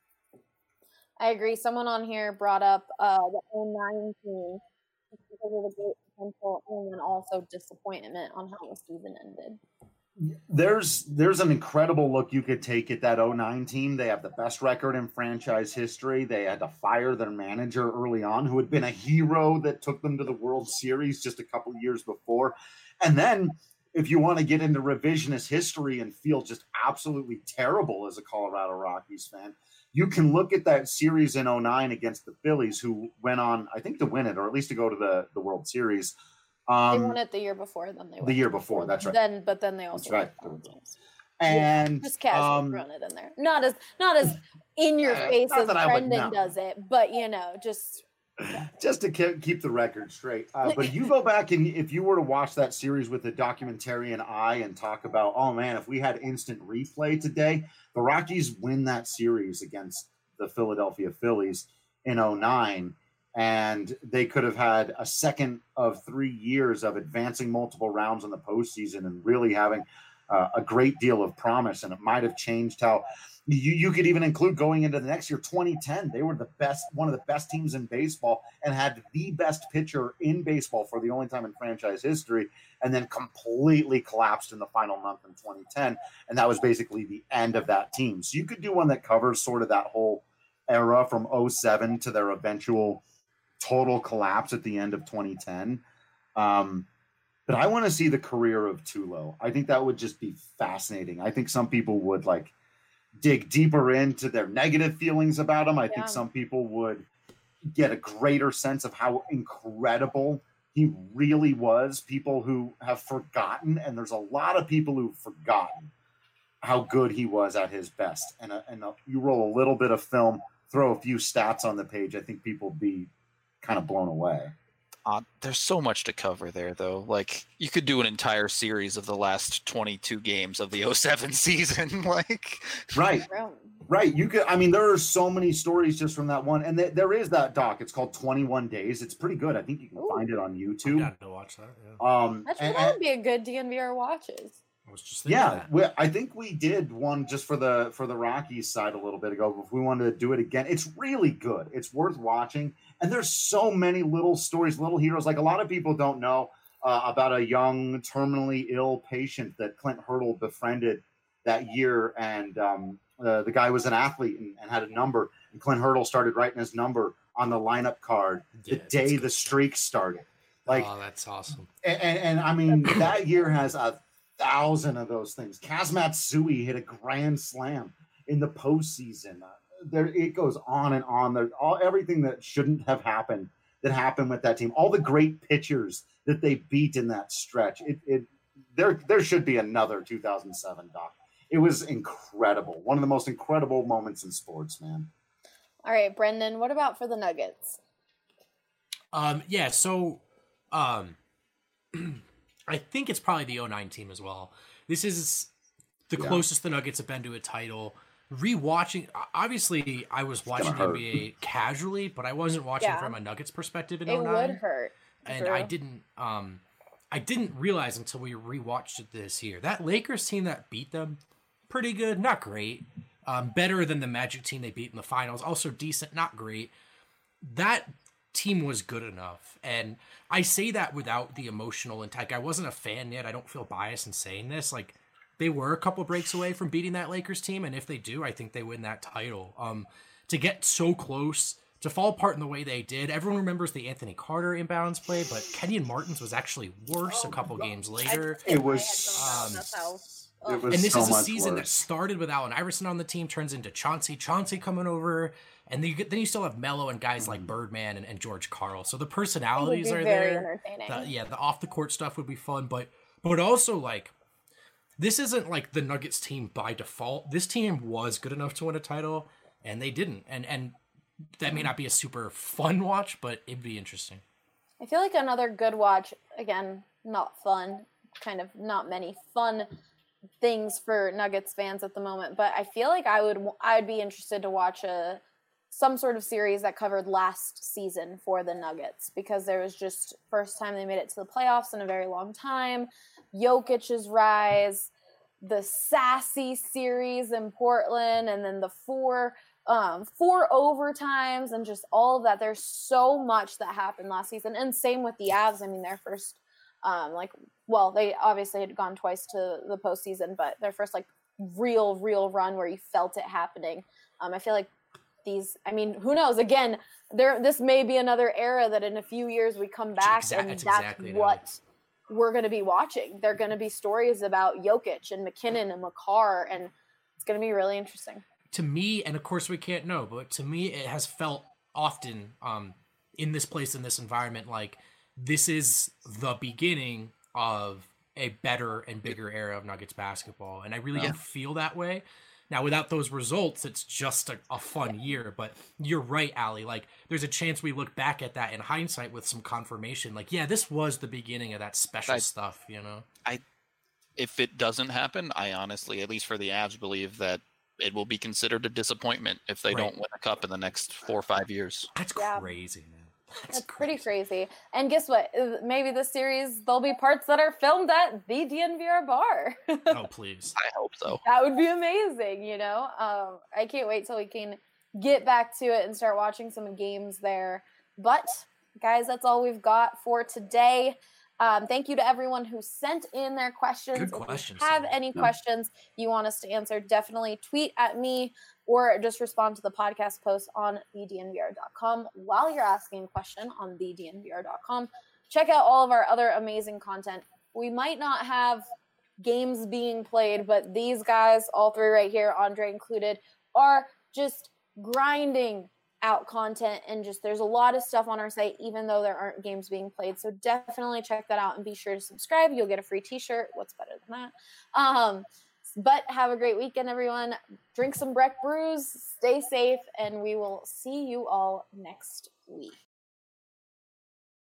I agree. Someone on here brought up uh, the oh nine team because of the great potential and then also disappointment on how the season ended. There's there's an incredible look you could take at that oh nine team. They have the best record in franchise history. They had to fire their manager early on, who had been a hero that took them to the World Series just a couple of years before. And then if you want to get into revisionist history and feel just absolutely terrible as a Colorado Rockies fan, you can look at that series in oh nine against the Phillies, who went on, I think, to win it, or at least to go to the, the World Series. Um, they won it the year before. Then they won the year before. That's right. Then, but then they also that's right. won the and yeah, just casually um, thrown it in there. Not as not as in your face as Brendan no. does it, but you know, just just to keep the record straight. Uh, but you go back and if you were to watch that series with a documentarian eye and talk about, oh man, if we had instant replay today, the Rockies win that series against the Philadelphia Phillies in oh nine. And they could have had a second of three years of advancing multiple rounds in the postseason and really having uh, a great deal of promise. And it might have changed how you, you could even include going into the next year, twenty ten. They were the best, one of the best teams in baseball and had the best pitcher in baseball for the only time in franchise history, and then completely collapsed in the final month in twenty ten. And that was basically the end of that team. So you could do one that covers sort of that whole era from oh seven to their eventual total collapse at the end of twenty ten. Um, but I want to see the career of Tulo. I think that would just be fascinating. I think some people would like dig deeper into their negative feelings about him. I yeah. think some people would get a greater sense of how incredible he really was. People who have forgotten, and there's a lot of people who've forgotten how good he was at his best. And, a, and a, you roll a little bit of film, throw a few stats on the page, I think people would be kind of blown away. Uh, there's so much to cover there, though. Like, you could do an entire series of the last twenty-two games of the oh seven season. Like, right, right. You could. I mean, there are so many stories just from that one, and th- there is that doc. It's called twenty-one Days. It's pretty good. I think you can Ooh. find it on YouTube. I to watch that. Yeah. Um, that and, would be a good D N V R watches. I was just yeah, we, I think we did one just for the for the Rockies side a little bit ago. If we wanted to do it again, it's really good. It's worth watching. And there's so many little stories, little heroes. Like a lot of people don't know uh, about a young, terminally ill patient that Clint Hurdle befriended that year. And um, uh, the guy was an athlete and, and had a number. And Clint Hurdle started writing his number on the lineup card the yeah, day the streak started. Like, oh, that's awesome. And, and, and I mean, that year has a thousand of those things. Kaz Matsui hit a grand slam in the postseason. Uh, there, it goes on and on. There's all everything that shouldn't have happened that happened with that team. All the great pitchers that they beat in that stretch. It, it there, there should be another two thousand seven doc. It was incredible. One of the most incredible moments in sports, man. All right, Brendan. What about for the Nuggets? Um. Yeah. So, um. I think it's probably the oh nine team as well. This is the yeah. closest the Nuggets have been to a title. Rewatching, obviously, I was watching the N B A casually, but I wasn't watching yeah. from a Nuggets perspective in it oh nine. It would hurt. And I didn't, um, I didn't realize until we rewatched it this year. That Lakers team that beat them, pretty good, not great. Um, better than the Magic team they beat in the finals. Also decent, not great. That team was good enough, and I say that without the emotional intent. I wasn't a fan yet. I don't feel biased in saying this. Like, they were a couple breaks away from beating that Lakers team, and if they do, I think they win that title. Um, to get so close, to fall apart in the way they did. Everyone remembers the Anthony Carter imbalance play, but Kenyon Martin's was actually worse oh, a couple games later. It was. Um, it was and this so is a season worse. that started with Allen Iverson on the team, turns into Chauncey, Chauncey coming over. And then you, get, then you still have Melo and guys like Birdman and, and George Karl. So the personalities are there. The, yeah, the off the court stuff would be fun, but but also like this isn't like the Nuggets team by default. This team was good enough to win a title, and they didn't. And and that may not be a super fun watch, but it'd be interesting. I feel like another good watch. Again, not fun. Kind of not many fun things for Nuggets fans at the moment. But I feel like I would I would be interested to watch a. some sort of series that covered last season for the Nuggets, because there was just first time they made it to the playoffs in a very long time. Jokic's rise, the sassy series in Portland, and then the four um, four overtimes and just all of that. There's so much that happened last season. And same with the Avs. I mean, their first, um, like, well, they obviously had gone twice to the postseason, but their first like real, real run where you felt it happening. Um, I feel like these, I mean, who knows? Again, there. This may be another era that in a few years we come back Exa- and that's exactly what no. we're going to be watching. They're going to be stories about Jokic and McKinnon and McCarr, and it's going to be really interesting. To me, and of course we can't know, but to me it has felt often um, in this place, in this environment, like this is the beginning of a better and bigger era of Nuggets basketball. And I really yeah. don't feel that way. Now, without those results, it's just a, a fun year. But you're right, Allie. Like, there's a chance we look back at that in hindsight with some confirmation. Like, yeah, this was the beginning of that special I, stuff, you know? I, if it doesn't happen, I honestly, at least for the Avs, believe that it will be considered a disappointment if they right. don't win a cup in the next four or five years. That's yeah. crazy, man. That's, That's pretty crazy. And guess what? Maybe this series, there'll be parts that are filmed at the D N V R bar. Oh, please. I hope so. That would be amazing, you know? Um, I can't wait till we can get back to it and start watching some games there. But, guys, that's all we've got for today. Um, thank you to everyone who sent in their questions. Good questions. If you have any yeah. questions you want us to answer, definitely tweet at me or just respond to the podcast post on the D N V R dot com while you're asking a question on the D N V R dot com. Check out all of our other amazing content. We might not have games being played, but these guys, all three right here, Andre included, are just grinding out content, and just there's a lot of stuff on our site even though there aren't games being played. So definitely check that out and be sure to subscribe. You'll get a free t-shirt. What's better than that? Um, but have a great weekend, everyone. Drink some Breck brews, stay safe, and we will see you all next week.